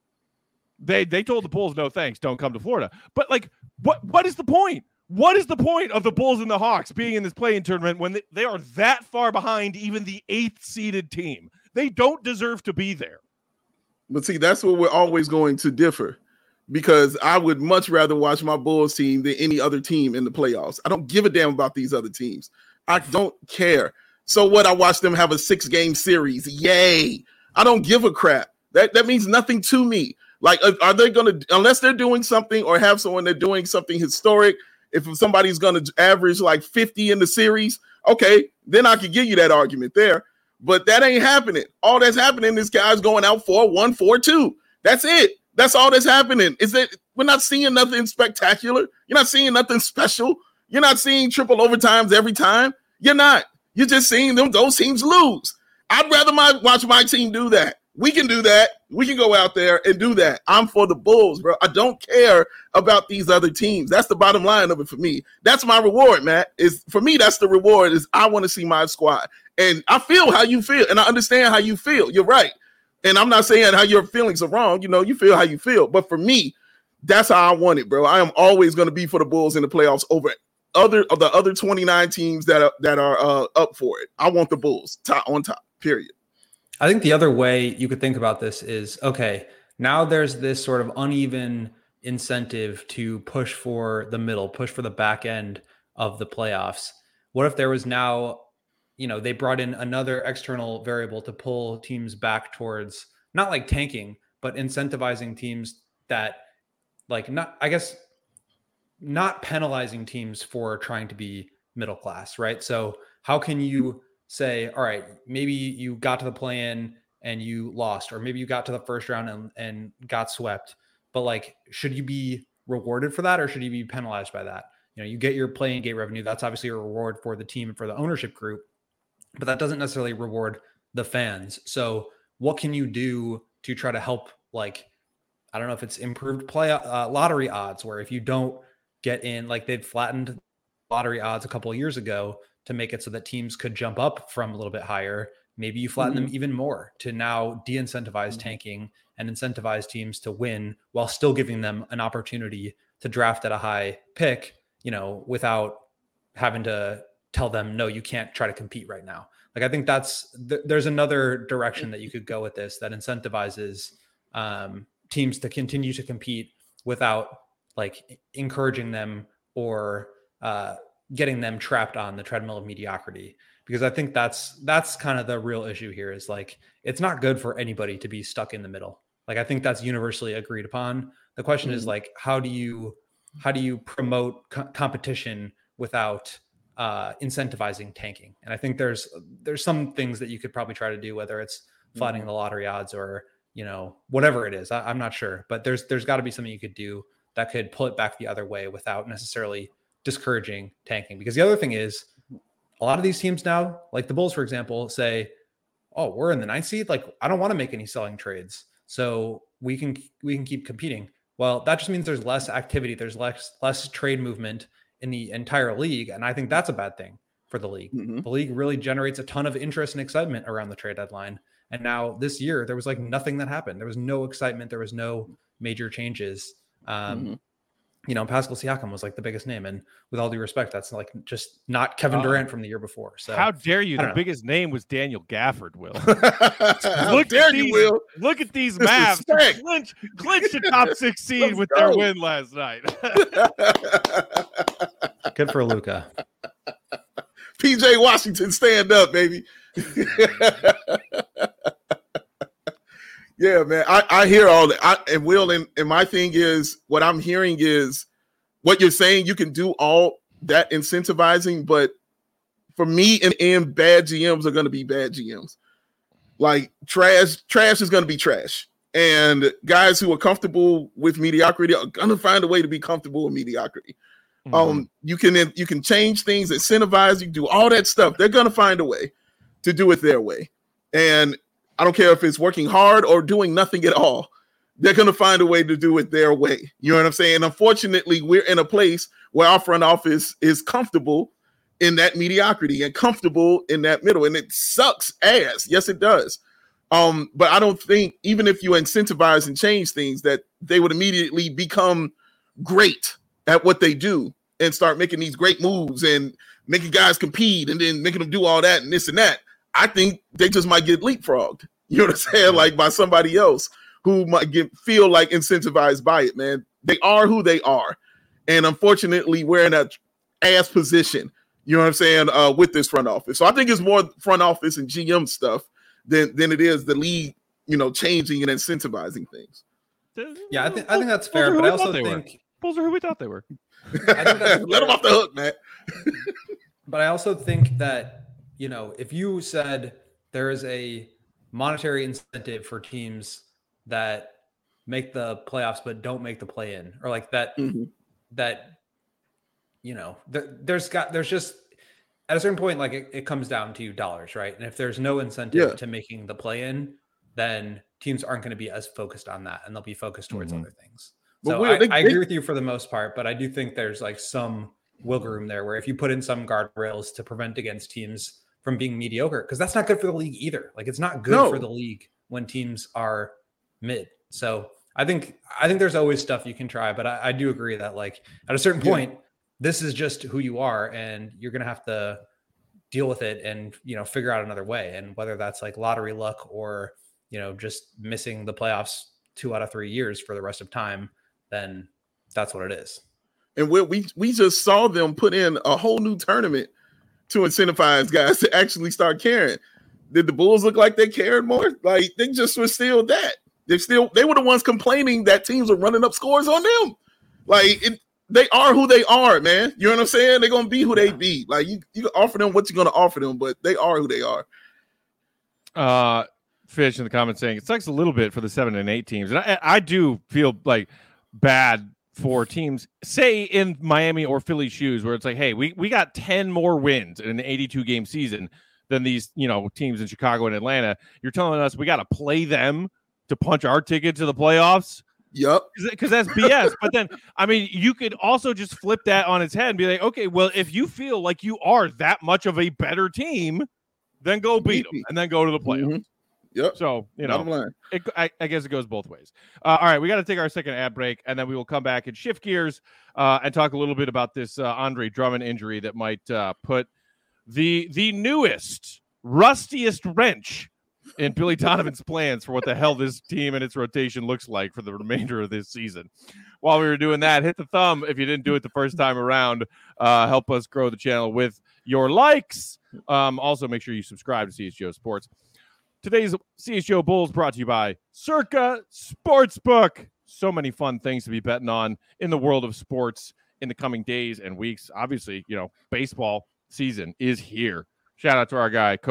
S1: They they told the Bulls, no thanks, don't come to Florida. But, like, what what is the point? What is the point of the Bulls and the Hawks being in this play-in tournament when they, they are that far behind even the eighth-seeded team? They don't deserve to be there.
S3: But, see, that's where we're always going to differ, because I would much rather watch my Bulls team than any other team in the playoffs. I don't give a damn about these other teams. I don't care. So what? I watch them have a six-game series. Yay. I don't give a crap. That that means nothing to me. Like, are they going to, unless they're doing something or have someone they're doing something historic, if somebody's going to average like fifty in the series, okay, then I could give you that argument there. But that ain't happening. All that's happening is guys going out four one, four two. That's it. That's all that's happening. Is that we're not seeing nothing spectacular. You're not seeing nothing special. You're not seeing triple overtimes every time. You're not. You're just seeing them those teams lose. I'd rather my watch my team do that. We can do that. We can go out there and do that. I'm for the Bulls, bro. I don't care about these other teams. That's the bottom line of it for me. That's my reward, Matt. Is for me, that's the reward, is I want to see my squad. And I feel how you feel, and I understand how you feel. You're right. And I'm not saying how your feelings are wrong. You know, you feel how you feel. But for me, that's how I want it, bro. I am always going to be for the Bulls in the playoffs over other of the other twenty-nine teams that are that are uh, up for it. I want the Bulls top on top, period.
S4: I think the other way you could think about this is, okay, now there's this sort of uneven incentive to push for the middle, push for the back end of the playoffs. What if there was now, you know, they brought in another external variable to pull teams back towards not like tanking, but incentivizing teams that like not, I guess, not penalizing teams for trying to be middle class, right? So how can you say, all right, maybe you got to the play-in and you lost, or maybe you got to the first round and, and got swept, but like, should you be rewarded for that, or should you be penalized by that? You know, you get your play-in gate revenue. That's obviously a reward for the team and for the ownership group, but that doesn't necessarily reward the fans. So what can you do to try to help, like, I don't know if it's improved play uh, lottery odds, where if you don't get in, like they'd flattened lottery odds a couple of years ago to make it so that teams could jump up from a little bit higher. Maybe you flatten mm-hmm. them even more to now de-incentivize mm-hmm. tanking and incentivize teams to win while still giving them an opportunity to draft at a high pick, you know, without having to tell them, no, you can't try to compete right now. Like, I think that's, th- there's another direction that you could go with this that incentivizes um, teams to continue to compete without like encouraging them or uh, getting them trapped on the treadmill of mediocrity. Because I think that's, that's kind of the real issue here, is like, it's not good for anybody to be stuck in the middle. Like, I think that's universally agreed upon. The question mm-hmm. is like, how do you, how do you promote co- competition without uh, incentivizing tanking? And I think there's, there's some things that you could probably try to do, whether it's flattening mm-hmm. the lottery odds or, you know, whatever it is. I, I'm not sure, but there's, there's gotta be something you could do that could pull it back the other way without necessarily discouraging tanking. Because the other thing is, a lot of these teams now, like the Bulls, for example, say, oh, we're in the ninth seed. Like, I don't want to make any selling trades. So we can, we can keep competing. Well, that just means there's less activity. There's less, less trade movement in the entire league. And I think that's a bad thing for the league. Mm-hmm. The league really generates a ton of interest and excitement around the trade deadline. And now this year, there was like nothing that happened. There was no excitement. There was no major changes. Um, mm-hmm. You know, Pascal Siakam was like the biggest name. And with all due respect, that's like just not Kevin uh, Durant from the year before. So
S1: how dare you? The know. biggest name was Daniel Gafford, Will.
S3: look dare at these, you, Will.
S1: Look at these Mavs. Clinch, clinch the top six seed with go. their win last night.
S4: Good for Luka.
S3: P J Washington, stand up, baby. Yeah, man, I, I hear all that. I, and Will, and, and my thing is, what I'm hearing is what you're saying, you can do all that incentivizing, but for me, and, and bad G Ms are going to be bad G Ms. Like trash, trash is going to be trash. And guys who are comfortable with mediocrity are going to find a way to be comfortable with mediocrity. Mm-hmm. Um, you can you can change things, incentivize, you can do all that stuff. They're going to find a way to do it their way. And I don't care if it's working hard or doing nothing at all. They're going to find a way to do it their way. You know what I'm saying? Unfortunately, we're in a place where our front office is comfortable in that mediocrity and comfortable in that middle. And it sucks ass. Yes, it does. Um, but I don't think even if you incentivize and change things that they would immediately become great at what they do and start making these great moves and making guys compete and then making them do all that and this and that. I think they just might get leapfrogged, you know what I'm saying? Like by somebody else who might get feel like incentivized by it, man. They are who they are. And unfortunately, we're in that ass position, you know what I'm saying, uh, with this front office. So I think it's more front office and G M stuff than, than it is the league, you know, changing and incentivizing things.
S4: Yeah, I think I think that's fair, but I also think
S1: Bulls are who we thought they were.
S4: I think that's
S3: Let them off the hook, man.
S4: But I also think that, you know, if you said there is a monetary incentive for teams that make the playoffs but don't make the play-in, or like that, mm-hmm. that, you know, there, there's got there's just at a certain point, like it, it comes down to dollars, right? And if there's no incentive yeah. to making the play-in, then teams aren't going to be as focused on that, and they'll be focused towards mm-hmm. other things. So well, I, they, I agree with you for the most part, but I do think there's like some wiggle room there where if you put in some guardrails to prevent against teams from being mediocre, because that's not good for the league either. Like it's not good no. for the league when teams are mid. So I think I think there's always stuff you can try, but I, I do agree that like at a certain point, yeah. this is just who you are, and you're gonna have to deal with it and you know figure out another way. And whether that's like lottery luck or you know just missing the playoffs two out of three years for the rest of time, then that's what it is.
S3: And we we we just saw them put in a whole new tournament to incentivize guys to actually start caring. Did the Bulls look like they cared more? Like they just were still that. They still they were the ones complaining that teams are running up scores on them. Like it, they are who they are, man. You know what I'm saying? They're gonna be who they be. Like you, you can offer them what you're gonna offer them, but they are who they are.
S1: Uh, Fish in the comments saying it sucks a little bit for the seven and eight teams, and I, I do feel like bad for teams, say in Miami or Philly shoes, where it's like, hey, we, we got ten more wins in an eighty-two game season than these, you know, teams in Chicago and Atlanta. You're telling us we got to play them to punch our ticket to the playoffs?
S3: Yep.
S1: Because that's B S. But then, I mean, you could also just flip that on its head and be like, okay, well, if you feel like you are that much of a better team, then go beat them and then go to the playoffs. Mm-hmm.
S3: Yep.
S1: So, you know, it, I, I guess it goes both ways. Uh, all right, we got to take our second ad break, and then we will come back and shift gears uh, and talk a little bit about this uh, Andre Drummond injury that might uh, put the the newest, rustiest wrench in Billy Donovan's plans for what the hell this team and its rotation looks like for the remainder of this season. While we were doing that, hit the thumb if you didn't do it the first time around. Uh, help us grow the channel with your likes. Um, also, make sure you subscribe to C H G O Sports. Today's C H G O Bulls brought to you by Circa Sportsbook. So many fun things to be betting on in the world of sports in the coming days and weeks. Obviously, you know, baseball season is here. Shout out to our guy, Cody,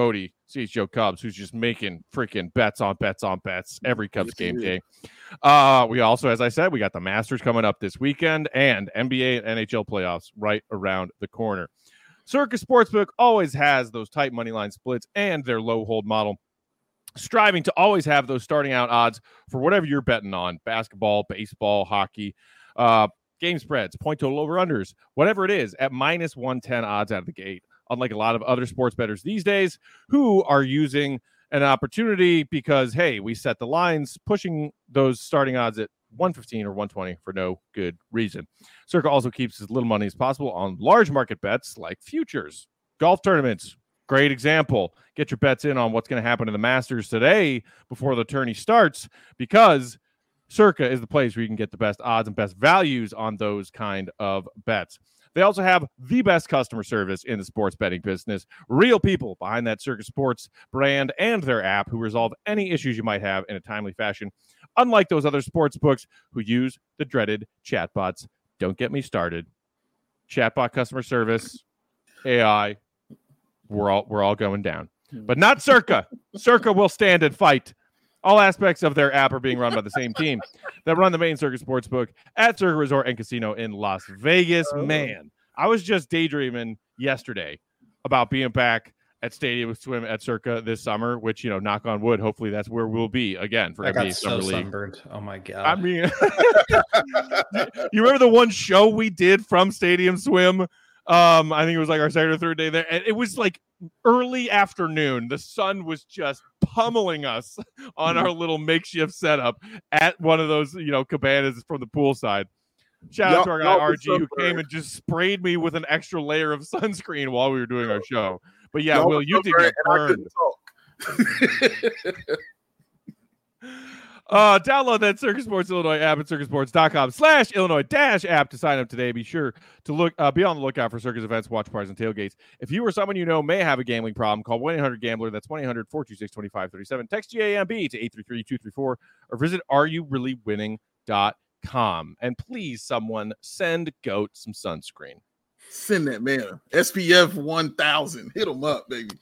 S1: C H G O Cubs, who's just making freaking bets on bets on bets every Cubs game day. Uh, we also, as I said, we got the Masters coming up this weekend and N B A and N H L playoffs right around the corner. Circa Sportsbook always has those tight money line splits and their low hold model, striving to always have those starting out odds for whatever you're betting on: basketball, baseball, hockey, uh, game spreads, point total over unders, whatever it is, at minus one ten odds out of the gate. Unlike a lot of other sports bettors these days who are using an opportunity because, hey, we set the lines, pushing those starting odds at one fifteen or one twenty for no good reason. Circa also keeps as little money as possible on large market bets like futures, golf tournaments. Great example. Get your bets in on what's going to happen to the Masters today before the tourney starts, because Circa is the place where you can get the best odds and best values on those kind of bets. They also have the best customer service in the sports betting business. Real people behind that Circa Sports brand and their app who resolve any issues you might have in a timely fashion. Unlike those other sports books who use the dreaded chatbots. Don't get me started. Chatbot customer service, A I, we're all we're all going down. But not Circa. Circa will stand and fight. All aspects of their app are being run by the same team that run the main Circa Sportsbook at Circa Resort and Casino in Las Vegas. Oh. Man, I was just daydreaming yesterday about being back at Stadium Swim at Circa this summer, which, you know, knock on wood, hopefully that's where we'll be again for
S4: I
S1: N B A
S4: got so
S1: Summer League.
S4: Sunburned. Oh my God.
S1: I mean, you remember the one show we did from Stadium Swim? Um, I think it was like our second or third day there. And it was like early afternoon. The sun was just pummeling us on our little makeshift setup at one of those, you know, cabanas from the poolside. Shout out to our guy R G who came and just sprayed me with an extra layer of sunscreen while we were doing our show. But yeah, Will, you did get burned. Uh, download that Circa Sports Illinois app at circasports.com slash Illinois dash app to sign up today. Be sure to look, uh, be on the lookout for Circa's events, watch parties, and tailgates. If you or someone you know may have a gambling problem, call one eight hundred gambler. That's one eight hundred four two six two five three seven. Text G A M B to eight three three two three four or visit are you really winning dot com. And please, someone send GOAT some sunscreen.
S3: Send that man S P F one thousand. Hit him up, baby.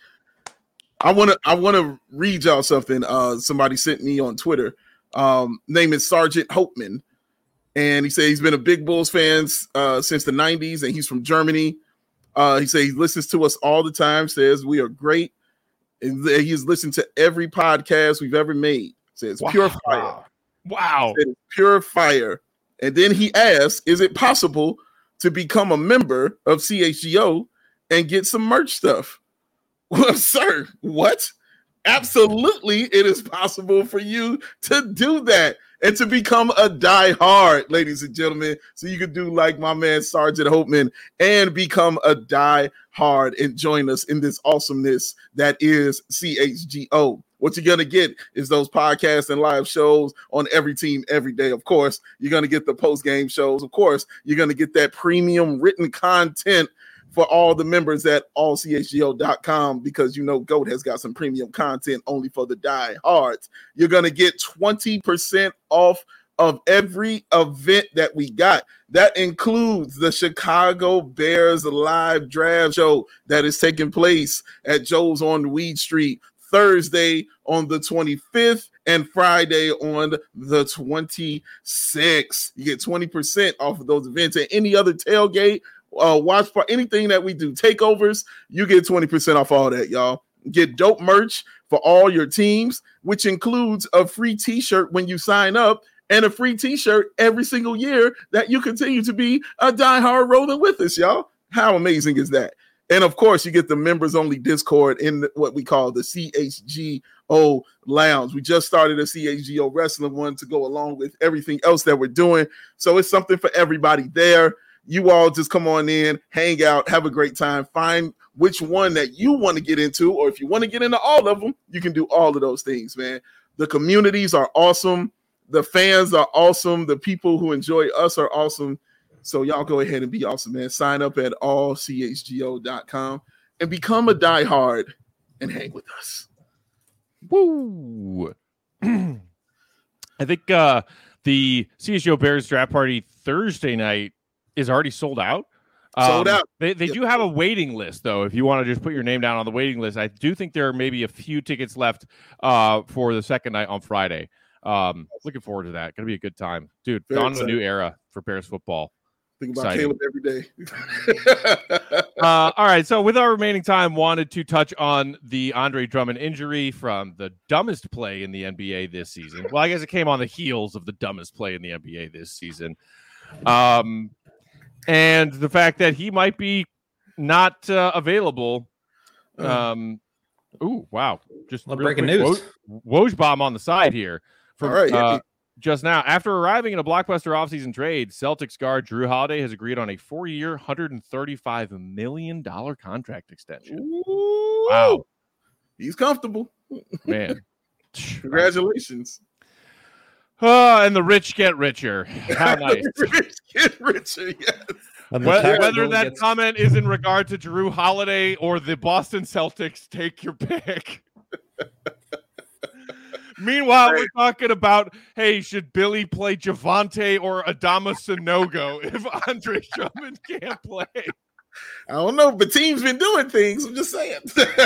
S3: I want to I want to read y'all something. Uh, somebody sent me on Twitter. Um, name is Sergeant Hopeman, and he said he's been a big Bulls fan uh, since the nineties, and he's from Germany. Uh, he said he listens to us all the time, says we are great, and he's listened to every podcast we've ever made. Says
S1: wow.
S3: pure fire.
S1: Wow.
S3: Says, pure fire. And then he asks, is it possible to become a member of C H G O and get some merch stuff? Well, sir, what? Absolutely, it is possible for you to do that and to become a diehard, ladies and gentlemen. So you can do like my man Sergeant Hopeman and become a diehard and join us in this awesomeness that is C H G O. What you're going to get is those podcasts and live shows on every team every day. Of course, you're going to get the post-game shows. Of course, you're going to get that premium written content for all the members at all c h g o dot com, because you know GOAT has got some premium content only for the diehards. You're going to get twenty percent off of every event that we got. That includes the Chicago Bears live draft show that is taking place at Joe's on Weed Street Thursday on the twenty-fifth and Friday on the twenty-sixth. You get twenty percent off of those events, and any other tailgate, Uh, watch for anything that we do, takeovers, you get twenty percent off all that, y'all. Get dope merch for all your teams, which includes a free t-shirt when you sign up and a free t-shirt every single year that you continue to be a diehard rolling with us, y'all. How amazing is that? And of course, you get the members only Discord in what we call the C H G O Lounge. We just started a C H G O wrestling one to go along with everything else that we're doing. So it's something for everybody there. You all just come on in, hang out, have a great time, find which one that you want to get into, or if you want to get into all of them, you can do all of those things, man. The communities are awesome. The fans are awesome. The people who enjoy us are awesome. So y'all go ahead and be awesome, man. Sign up at all c h g o dot com and become a diehard and hang with us.
S1: Woo! I think uh, the C H G O Bears draft party Thursday night is already sold out.
S3: Sold
S1: Um,
S3: out.
S1: They they
S3: Yeah.
S1: do have a waiting list though. If you want to just put your name down on the waiting list, I do think there are maybe a few tickets left uh, for the second night on Friday. Um, looking forward to that. Going to be a good time, dude.
S3: Very
S1: Dawn of a
S3: excited.
S1: new era for Bears football.
S3: Think about
S1: Exciting.
S3: Caleb every day.
S1: uh, all right. So with our remaining time, wanted to touch on the Andre Drummond injury from the dumbest play in the N B A this season. Well, I guess it came on the heels of the dumbest play in the N B A this season. Um, and the fact that he might be not uh, available. Um, ooh, wow. Just
S4: Well,
S1: real
S4: breaking
S1: quick,
S4: news.
S1: Woj bomb on the side here. From,
S3: All right, yeah.
S1: uh, just now, after arriving in a blockbuster offseason trade, Celtics guard Drew Holiday has agreed on a four-year, one hundred thirty-five million dollars contract extension.
S3: Ooh,
S1: Wow.
S3: He's comfortable.
S1: Man.
S3: Congratulations.
S1: Oh, and the rich get richer. How nice.
S3: Rich get richer, yes.
S4: And the
S1: Whether,
S4: tax
S1: whether
S4: bill
S1: that
S4: gets-
S1: comment is in regard to Drew Holiday or the Boston Celtics, take your pick. Meanwhile, we're talking about, hey, should Billy play Javante or Adama Sanogo if Andre Drummond can't play?
S3: I don't know, but team's been doing things. I'm just saying.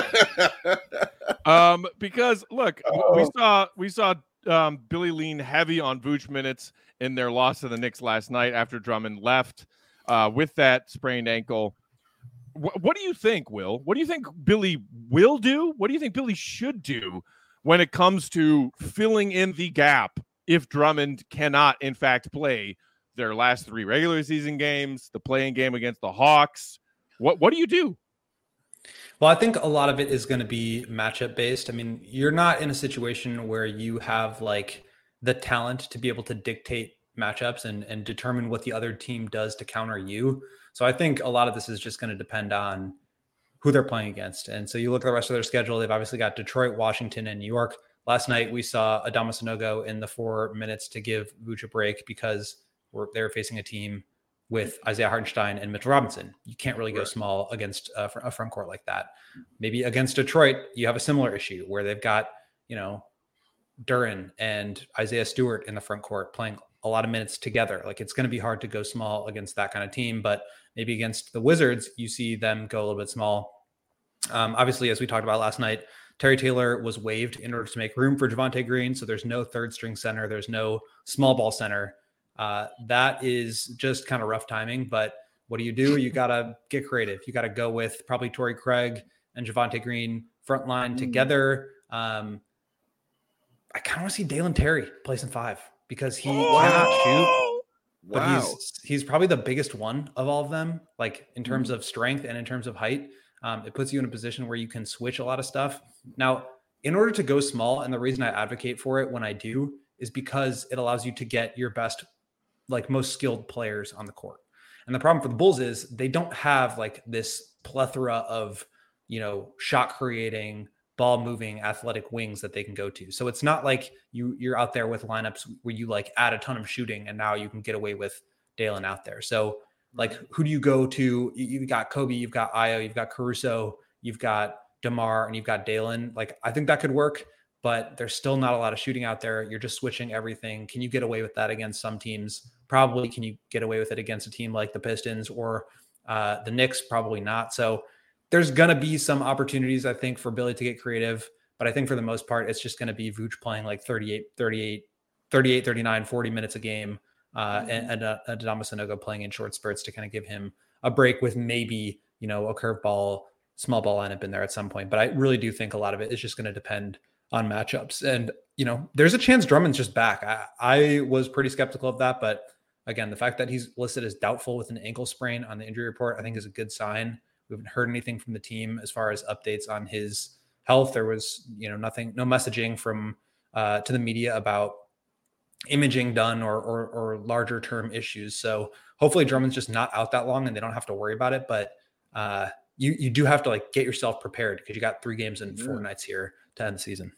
S1: Um, because look,
S3: Oh.
S1: we saw we saw um, Billy lean heavy on Vooch minutes in their loss to the Knicks last night after Drummond left uh, with that sprained ankle. Wh- what do you think, Will? What do you think Billy will do? What do you think Billy should do when it comes to filling in the gap if Drummond cannot, in fact, play their last three regular season games, the playing game against the Hawks? What what do you do?
S4: Well, I think a lot of it is going to be matchup based. I mean, you're not in a situation where you have like the talent to be able to dictate matchups and, and determine what the other team does to counter you. So I think a lot of this is just going to depend on who they're playing against. And so you look at the rest of their schedule, they've obviously got Detroit, Washington, and New York. Last night we saw Adama Sanogo in the four minutes to give Vooch a break because we're, they were facing a team with Isaiah Hartenstein and Mitchell Robinson. You can't really go
S3: Right.
S4: small against a, a front court like that. Maybe against Detroit, you have a similar issue where they've got, you know, Duren and Isaiah Stewart in the front court playing a lot of minutes together. Like it's going to be hard to go small against that kind of team, but maybe against the Wizards, you see them go a little bit small. Um, obviously, as we talked about last night, Terry Taylor was waived in order to make room for Javonte Green. So there's no third string center. There's no small ball center. Uh, that is just kind of rough timing, but what do you do? You got to get creative. You got to go with probably Torrey Craig and Javonte Green front line together. Um, I kind of want to see Dalen Terry play some five because he cannot shoot, but
S3: Wow.
S4: he's, he's probably the biggest one of all of them, like in terms of strength and in terms of height. Um, it puts you in a position where you can switch a lot of stuff. Now, in order to go small, and the reason I advocate for it when I do is because it allows you to get your best, like most skilled players on the court. And the problem for the Bulls is they don't have like this plethora of, you know, shot creating, ball moving, athletic wings that they can go to. So it's not like you you're out there with lineups where you like add a ton of shooting and now you can get away with Dalen out there. So like, who do you go to? You've got Kobe, you've got Ayo, you've got Caruso, you've got DeMar, and you've got Dalen. Like, I think that could work, but there's still not a lot of shooting out there. You're just switching everything. Can you get away with that against some teams? Probably. Can you get away with it against a team like the Pistons or uh, the Knicks? Probably not. So there's going to be some opportunities, I think, for Billy to get creative, but I think for the most part, it's just going to be Vooch playing like thirty-eight, thirty-eight, thirty-eight, thirty-nine, forty minutes a game. Uh, and, and uh, Adama Sanogo playing in short spurts to kind of give him a break with maybe, you know, a curveball, small ball lineup in there at some point. But I really do think a lot of it is just going to depend on matchups. And, you know, there's a chance Drummond's just back. I, I was pretty skeptical of that. But again, the fact that he's listed as doubtful with an ankle sprain on the injury report, I think is a good sign. We haven't heard anything from the team as far as updates on his health. There was, you know, nothing, no messaging from uh, to the media about imaging done or, or or larger term issues. So hopefully Drummond's just not out that long and they don't have to worry about it. But uh, you you do have to like get yourself prepared because you got three games and four
S3: Yeah.
S4: nights here to end the season.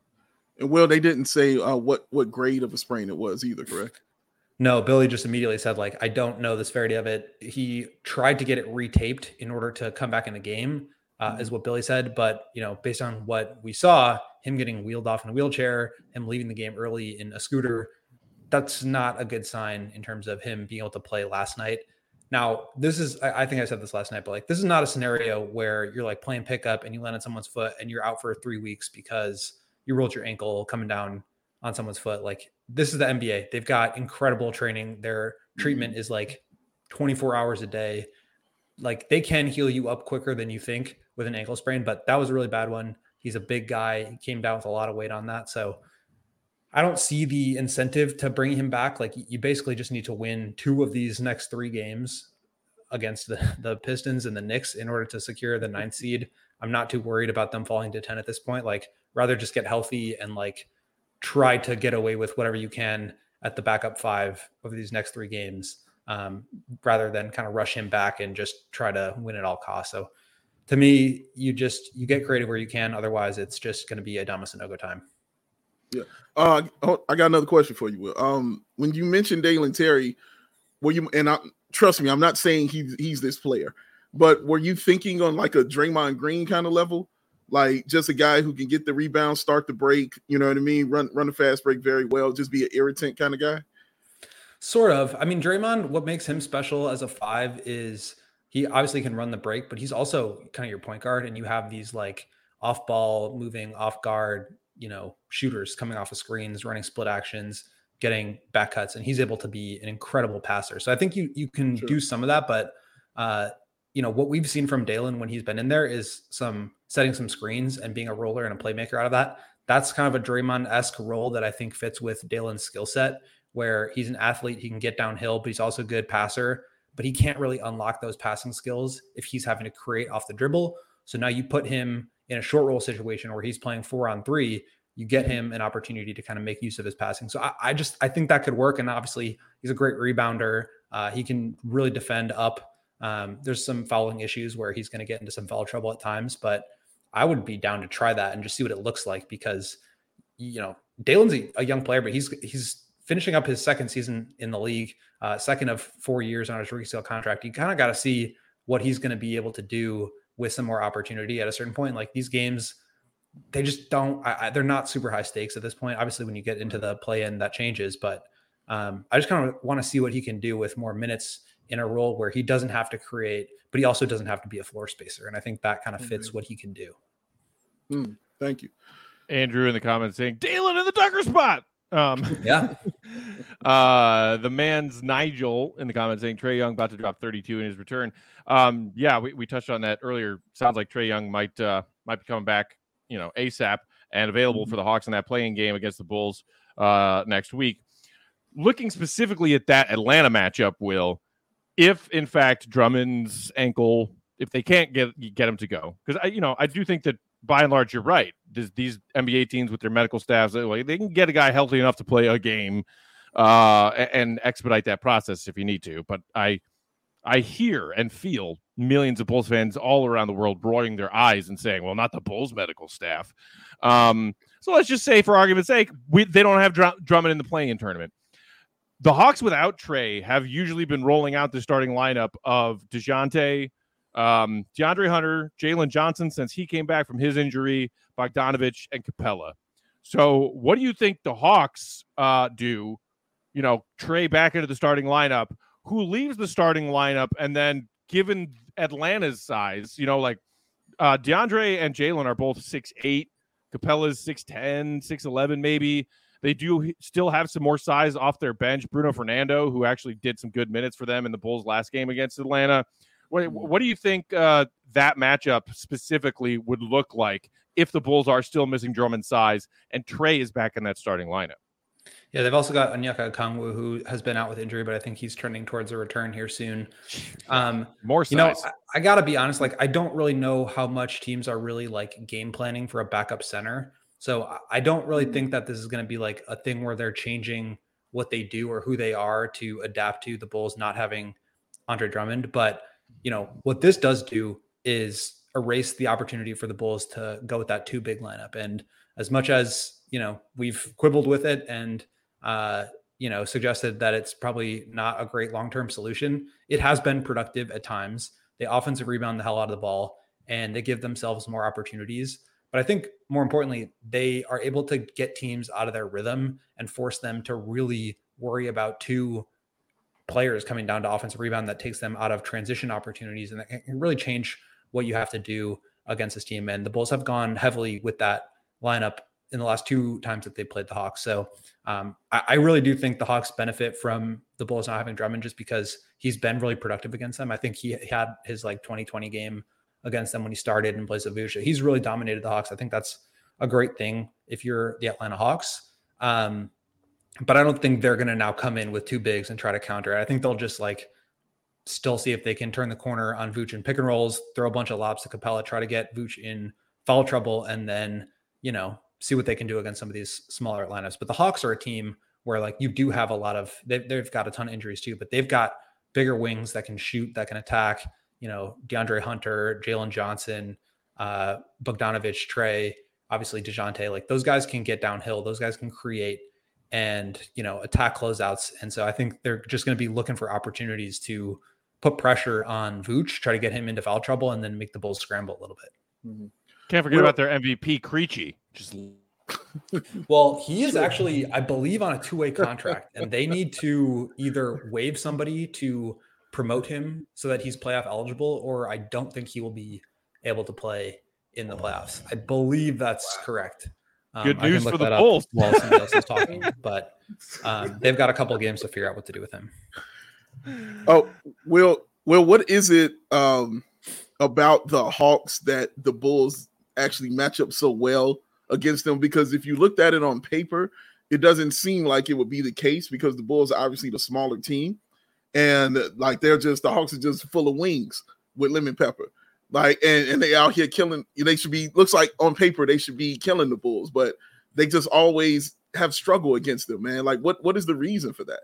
S3: And well, they didn't say uh, what what grade of a sprain it was either, correct?
S4: No, Billy just immediately said, like, I don't know the severity of it. He tried to get it retaped in order to come back in the game, uh,
S3: Mm-hmm.
S4: is what Billy said. But, you know, based on what we saw, him getting wheeled off in a wheelchair, him leaving the game early in a scooter, that's not a good sign in terms of him being able to play last night. Now, this is, I, I think I said this last night, but like, this is not a scenario where you're like playing pickup and you land on someone's foot and you're out for three weeks because you rolled your ankle coming down on someone's foot. Like, this is the N B A. They've got incredible training. Their treatment is like twenty-four hours a day. Like, they can heal you up quicker than you think with an ankle sprain, but that was a really bad one. He's a big guy. He came down with a lot of weight on that. So I don't see the incentive to bring him back. Like, you basically just need to win two of these next three games against the, the Pistons and the Knicks in order to secure the ninth seed. I'm not too worried about them falling to ten at this point. Like, rather just get healthy and like try to get away with whatever you can at the backup five over these next three games, um, rather than kind of rush him back and just try to win at all costs. So to me, you just, you get creative where you can. Otherwise it's just going to be a Adamas and Ogo time.
S3: Yeah. Uh, I got another question for you, Will. Um, when you mentioned Dalen Terry, were you, and I, trust me, I'm not saying he's, he's this player, but were you thinking on like a Draymond Green kind of level? Like, just a guy who can get the rebound, start the break, you know what I mean? Run, run a fast break very well, just be an irritant kind of guy?
S4: Sort of. I mean, Draymond, what makes him special as a five is he obviously can run the break, but he's also kind of your point guard, and you have these like off ball, moving off guard, you know, shooters coming off of screens, running split actions, getting back cuts, and he's able to be an incredible passer. So I think you you can sure. do some of that, but uh, you know, what we've seen from Dalen when he's been in there is some setting some screens and being a roller and a playmaker out of that. That's kind of a Draymond-esque role that I think fits with Dalen's skill set, where he's an athlete, he can get downhill, but he's also a good passer, but he can't really unlock those passing skills if he's having to create off the dribble. So now you put him in a short roll situation where he's playing four on three, you get him an opportunity to kind of make use of his passing. So I, I just, I think that could work. And obviously he's a great rebounder. Uh, he can really defend up. Um, there's some fouling issues where he's going to get into some foul trouble at times, but I would be down to try that and just see what it looks like, because, you know, Dalen's a, a young player, but he's, he's finishing up his second season in the league, uh, second of four years on his rookie scale contract. You kind of got to see what he's going to be able to do with some more opportunity at a certain point. Like, these games, they just don't, I, I, they're not super high stakes at this point. Obviously when you get into the play in, that changes, but um, I just kind of want to see what he can do with more minutes in a role where he doesn't have to create, but he also doesn't have to be a floor spacer. And I think that kind of fits mm-hmm. what he can do.
S3: Mm, thank you.
S1: Andrew in the comments saying Dalen in the Tucker spot. Um,
S4: yeah.
S1: uh, the man's Nigel in the comments saying Trae Young about to drop thirty-two in his return. Um, yeah, we, we touched on that earlier. Sounds like Trae Young might, uh, might be coming back, you know, ASAP and available mm-hmm. for the Hawks in that playing game against the Bulls uh, next week. Looking specifically at that Atlanta matchup, Will, if in fact Drummond's ankle, if they can't get get him to go, because I, you know, I do think that by and large you're right. Does these N B A teams with their medical staffs, they, they can get a guy healthy enough to play a game uh, and expedite that process if you need to. But I, I hear and feel millions of Bulls fans all around the world rolling their eyes and saying, "Well, not the Bulls medical staff." Um, so let's just say, for argument's sake, we, they don't have Dr- Drummond in the play-in tournament. The Hawks without Trae have usually been rolling out the starting lineup of DeJounte, um, DeAndre Hunter, Jalen Johnson since he came back from his injury, Bogdanovich, and Capella. So what do you think the Hawks uh, do? You know, Trae back into the starting lineup. Who leaves the starting lineup? And then given Atlanta's size, you know, like uh, DeAndre and Jalen are both six eight. Capella's six ten, six eleven maybe. They do still have some more size off their bench. Bruno Fernando, who actually did some good minutes for them in the Bulls' last game against Atlanta. What, what do you think uh, that matchup specifically would look like if the Bulls are still missing Drummond's size and Trae is back in that starting lineup?
S4: Yeah, they've also got Onyeka Okongwu, who has been out with injury, but I think he's trending towards a return here soon. Um,
S1: more size.
S4: You know, I, I got to be honest, like, I don't really know how much teams are really like game planning for a backup center. So I don't really think that this is going to be like a thing where they're changing what they do or who they are to adapt to the Bulls not having Andre Drummond. But, you know, what this does do is erase the opportunity for the Bulls to go with that two big lineup. And as much as, you know, we've quibbled with it and, uh, you know, suggested that it's probably not a great long-term solution, it has been productive at times. They offensive rebound the hell out of the ball and they give themselves more opportunities. But I think more importantly, they are able to get teams out of their rhythm and force them to really worry about two players coming down to offensive rebound that takes them out of transition opportunities, and that can really change what you have to do against this team. And the Bulls have gone heavily with that lineup in the last two times that they played the Hawks. So um, I, I really do think the Hawks benefit from the Bulls not having Drummond, just because he's been really productive against them. I think he, he had his like twenty twenty game against them when he started in place of Vooch. He's really dominated the Hawks. I think that's a great thing if you're the Atlanta Hawks. Um, but I don't think they're going to now come in with two bigs and try to counter it. I think they'll just like still see if they can turn the corner on Vooch and pick and rolls, throw a bunch of lobs to Capella, try to get Vooch in foul trouble, and then, you know, see what they can do against some of these smaller lineups. But the Hawks are a team where like you do have a lot of, they've, they've got a ton of injuries too, but they've got bigger wings that can shoot, that can attack, you know, DeAndre Hunter, Jalen Johnson, uh, Bogdanovich, Trey, obviously DeJounte, like those guys can get downhill. Those guys can create and, you know, attack closeouts. And so I think they're just going to be looking for opportunities to put pressure on Vooch, try to get him into foul trouble, and then make the Bulls scramble a little bit.
S3: Mm-hmm.
S1: Can't forget well, about their M V P, Krejci. Just
S4: well, he is actually, I believe, on a two-way contract, and they need to either waive somebody to promote him so that he's playoff eligible, or I don't think he will be able to play in the playoffs. I believe that's correct. Um,
S1: Good news for the Bulls.
S4: While somebody else is talking, but um, they've got a couple games to figure out what to do with him.
S3: Oh, Will, Will, what is it um, about the Hawks that the Bulls actually match up so well against them? Because if you looked at it on paper, it doesn't seem like it would be the case, because the Bulls are obviously the smaller team, and like they're just, the Hawks are just full of wings with lemon pepper. Like, and, and they out here killing, they should be, looks like on paper, they should be killing the Bulls, but they just always have struggle against them, man. Like, what, what is the reason for that?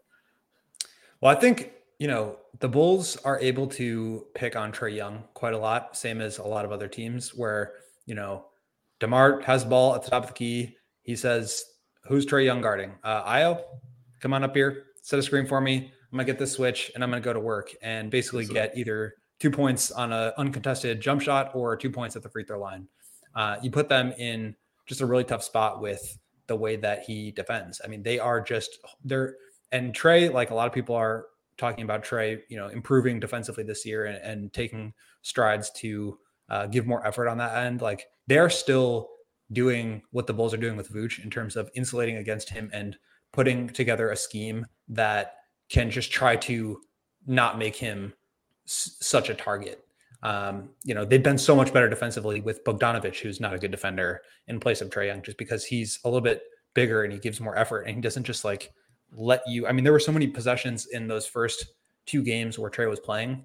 S4: Well, I think, you know, the Bulls are able to pick on Trae Young quite a lot, same as a lot of other teams where, you know, DeMar has the ball at the top of the key. He says, who's Trae Young guarding? Uh, Io, come on up here, set a screen for me. I'm going to get this switch and I'm going to go to work and basically get either two points on an uncontested jump shot or two points at the free throw line. Uh, you put them in just a really tough spot with the way that he defends. I mean, they are just they're and Trae, like a lot of people are talking about Trae, you know, improving defensively this year and, and taking strides to uh, give more effort on that end. Like they're still doing what the Bulls are doing with Vooch in terms of insulating against him and putting together a scheme that can just try to not make him s- such a target. Um, you know, they've been so much better defensively with Bogdanovich, who's not a good defender, in place of Trae Young, just because he's a little bit bigger and he gives more effort and he doesn't just like let you. I mean, there were so many possessions in those first two games where Trae was playing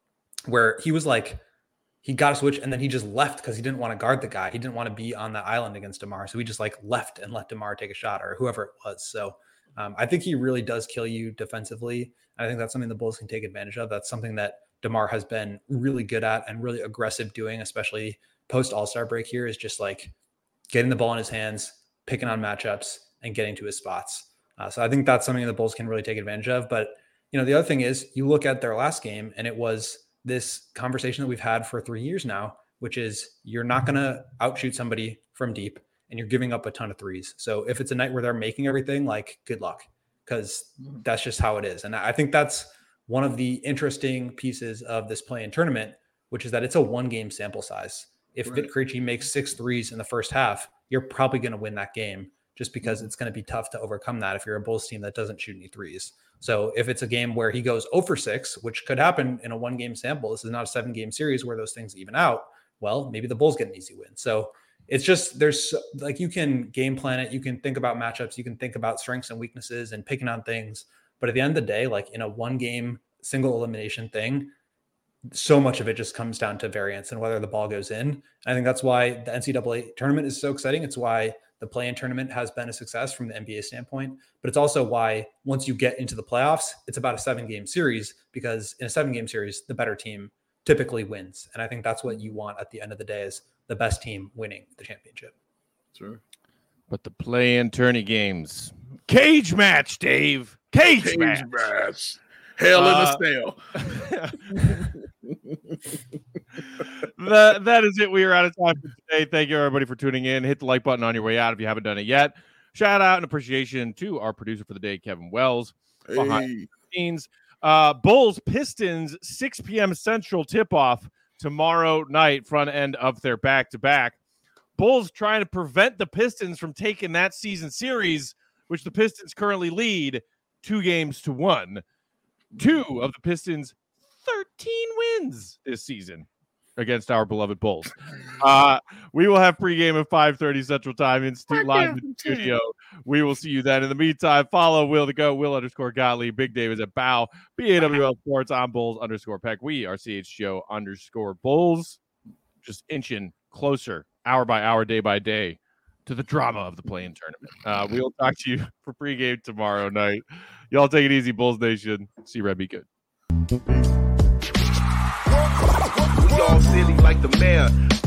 S4: where he was like, he got a switch and then he just left because he didn't want to guard the guy. He didn't want to be on that island against DeMar. So he just like left and let DeMar take a shot or whoever it was. So um, I think he really does kill you defensively. I think that's something the Bulls can take advantage of. That's something that DeMar has been really good at and really aggressive doing, especially post All-Star break here, is just like getting the ball in his hands, picking on matchups and getting to his spots. Uh, so I think that's something the Bulls can really take advantage of. But, you know, the other thing is you look at their last game and it was this conversation that we've had for three years now, which is you're not going to outshoot somebody from deep and you're giving up a ton of threes. So if it's a night where they're making everything, like good luck, because that's just how it is. And I think that's one of the interesting pieces of this play-in tournament, which is that it's a one game sample size. If right. Vit Krejci makes six threes in the first half, you're probably going to win that game just because mm-hmm. it's going to be tough to overcome that if you're a Bulls team that doesn't shoot any threes. So if it's a game where he goes zero for six, which could happen in a one game sample, this is not a seven game series where those things even out. Well, maybe the Bulls get an easy win. So it's just, there's like, you can game plan it. You can think about matchups. You can think about strengths and weaknesses and picking on things. But at the end of the day, like in a one game single elimination thing, so much of it just comes down to variance and whether the ball goes in. And I think that's why the N C double A tournament is so exciting. It's why the play-in tournament has been a success from the N B A standpoint, but it's also why once you get into the playoffs, it's about a seven game series, because in a seven game series, the better team typically wins. And I think that's what you want at the end of the day, is the best team winning the championship.
S3: Sure.
S1: But the play-in tourney games, cage match, Dave, cage, cage match.
S3: match. Hell
S1: uh,
S3: in a cell.
S1: that, that is it. We are out of time for today. Thank you, everybody, for tuning in. Hit the like button on your way out if you haven't done it yet. Shout out and appreciation to our producer for the day, Kevin Wells.
S3: Hey.
S1: Behind the scenes. Uh, Bulls Pistons six p.m. Central tip-off tomorrow night, front end of their back-to-back. Bulls trying to prevent the Pistons from taking that season series, which the Pistons currently lead two games to one. Two of the Pistons' thirteen wins this season against our beloved Bulls. Uh, we will have pregame at five thirty Central Time in stu- live in the studio. We will see you then. In the meantime, follow Will to go, Will underscore Gottlieb. Big Dave is at Bow. B A W L Sports on Bulls underscore Peck. We are C H G O underscore Bulls. Just inching closer, hour by hour, day by day, to the drama of the play-in tournament. Uh, we will talk to you for pregame tomorrow night. Y'all take it easy, Bulls Nation. See Red be good.
S5: We all silly like the mayor.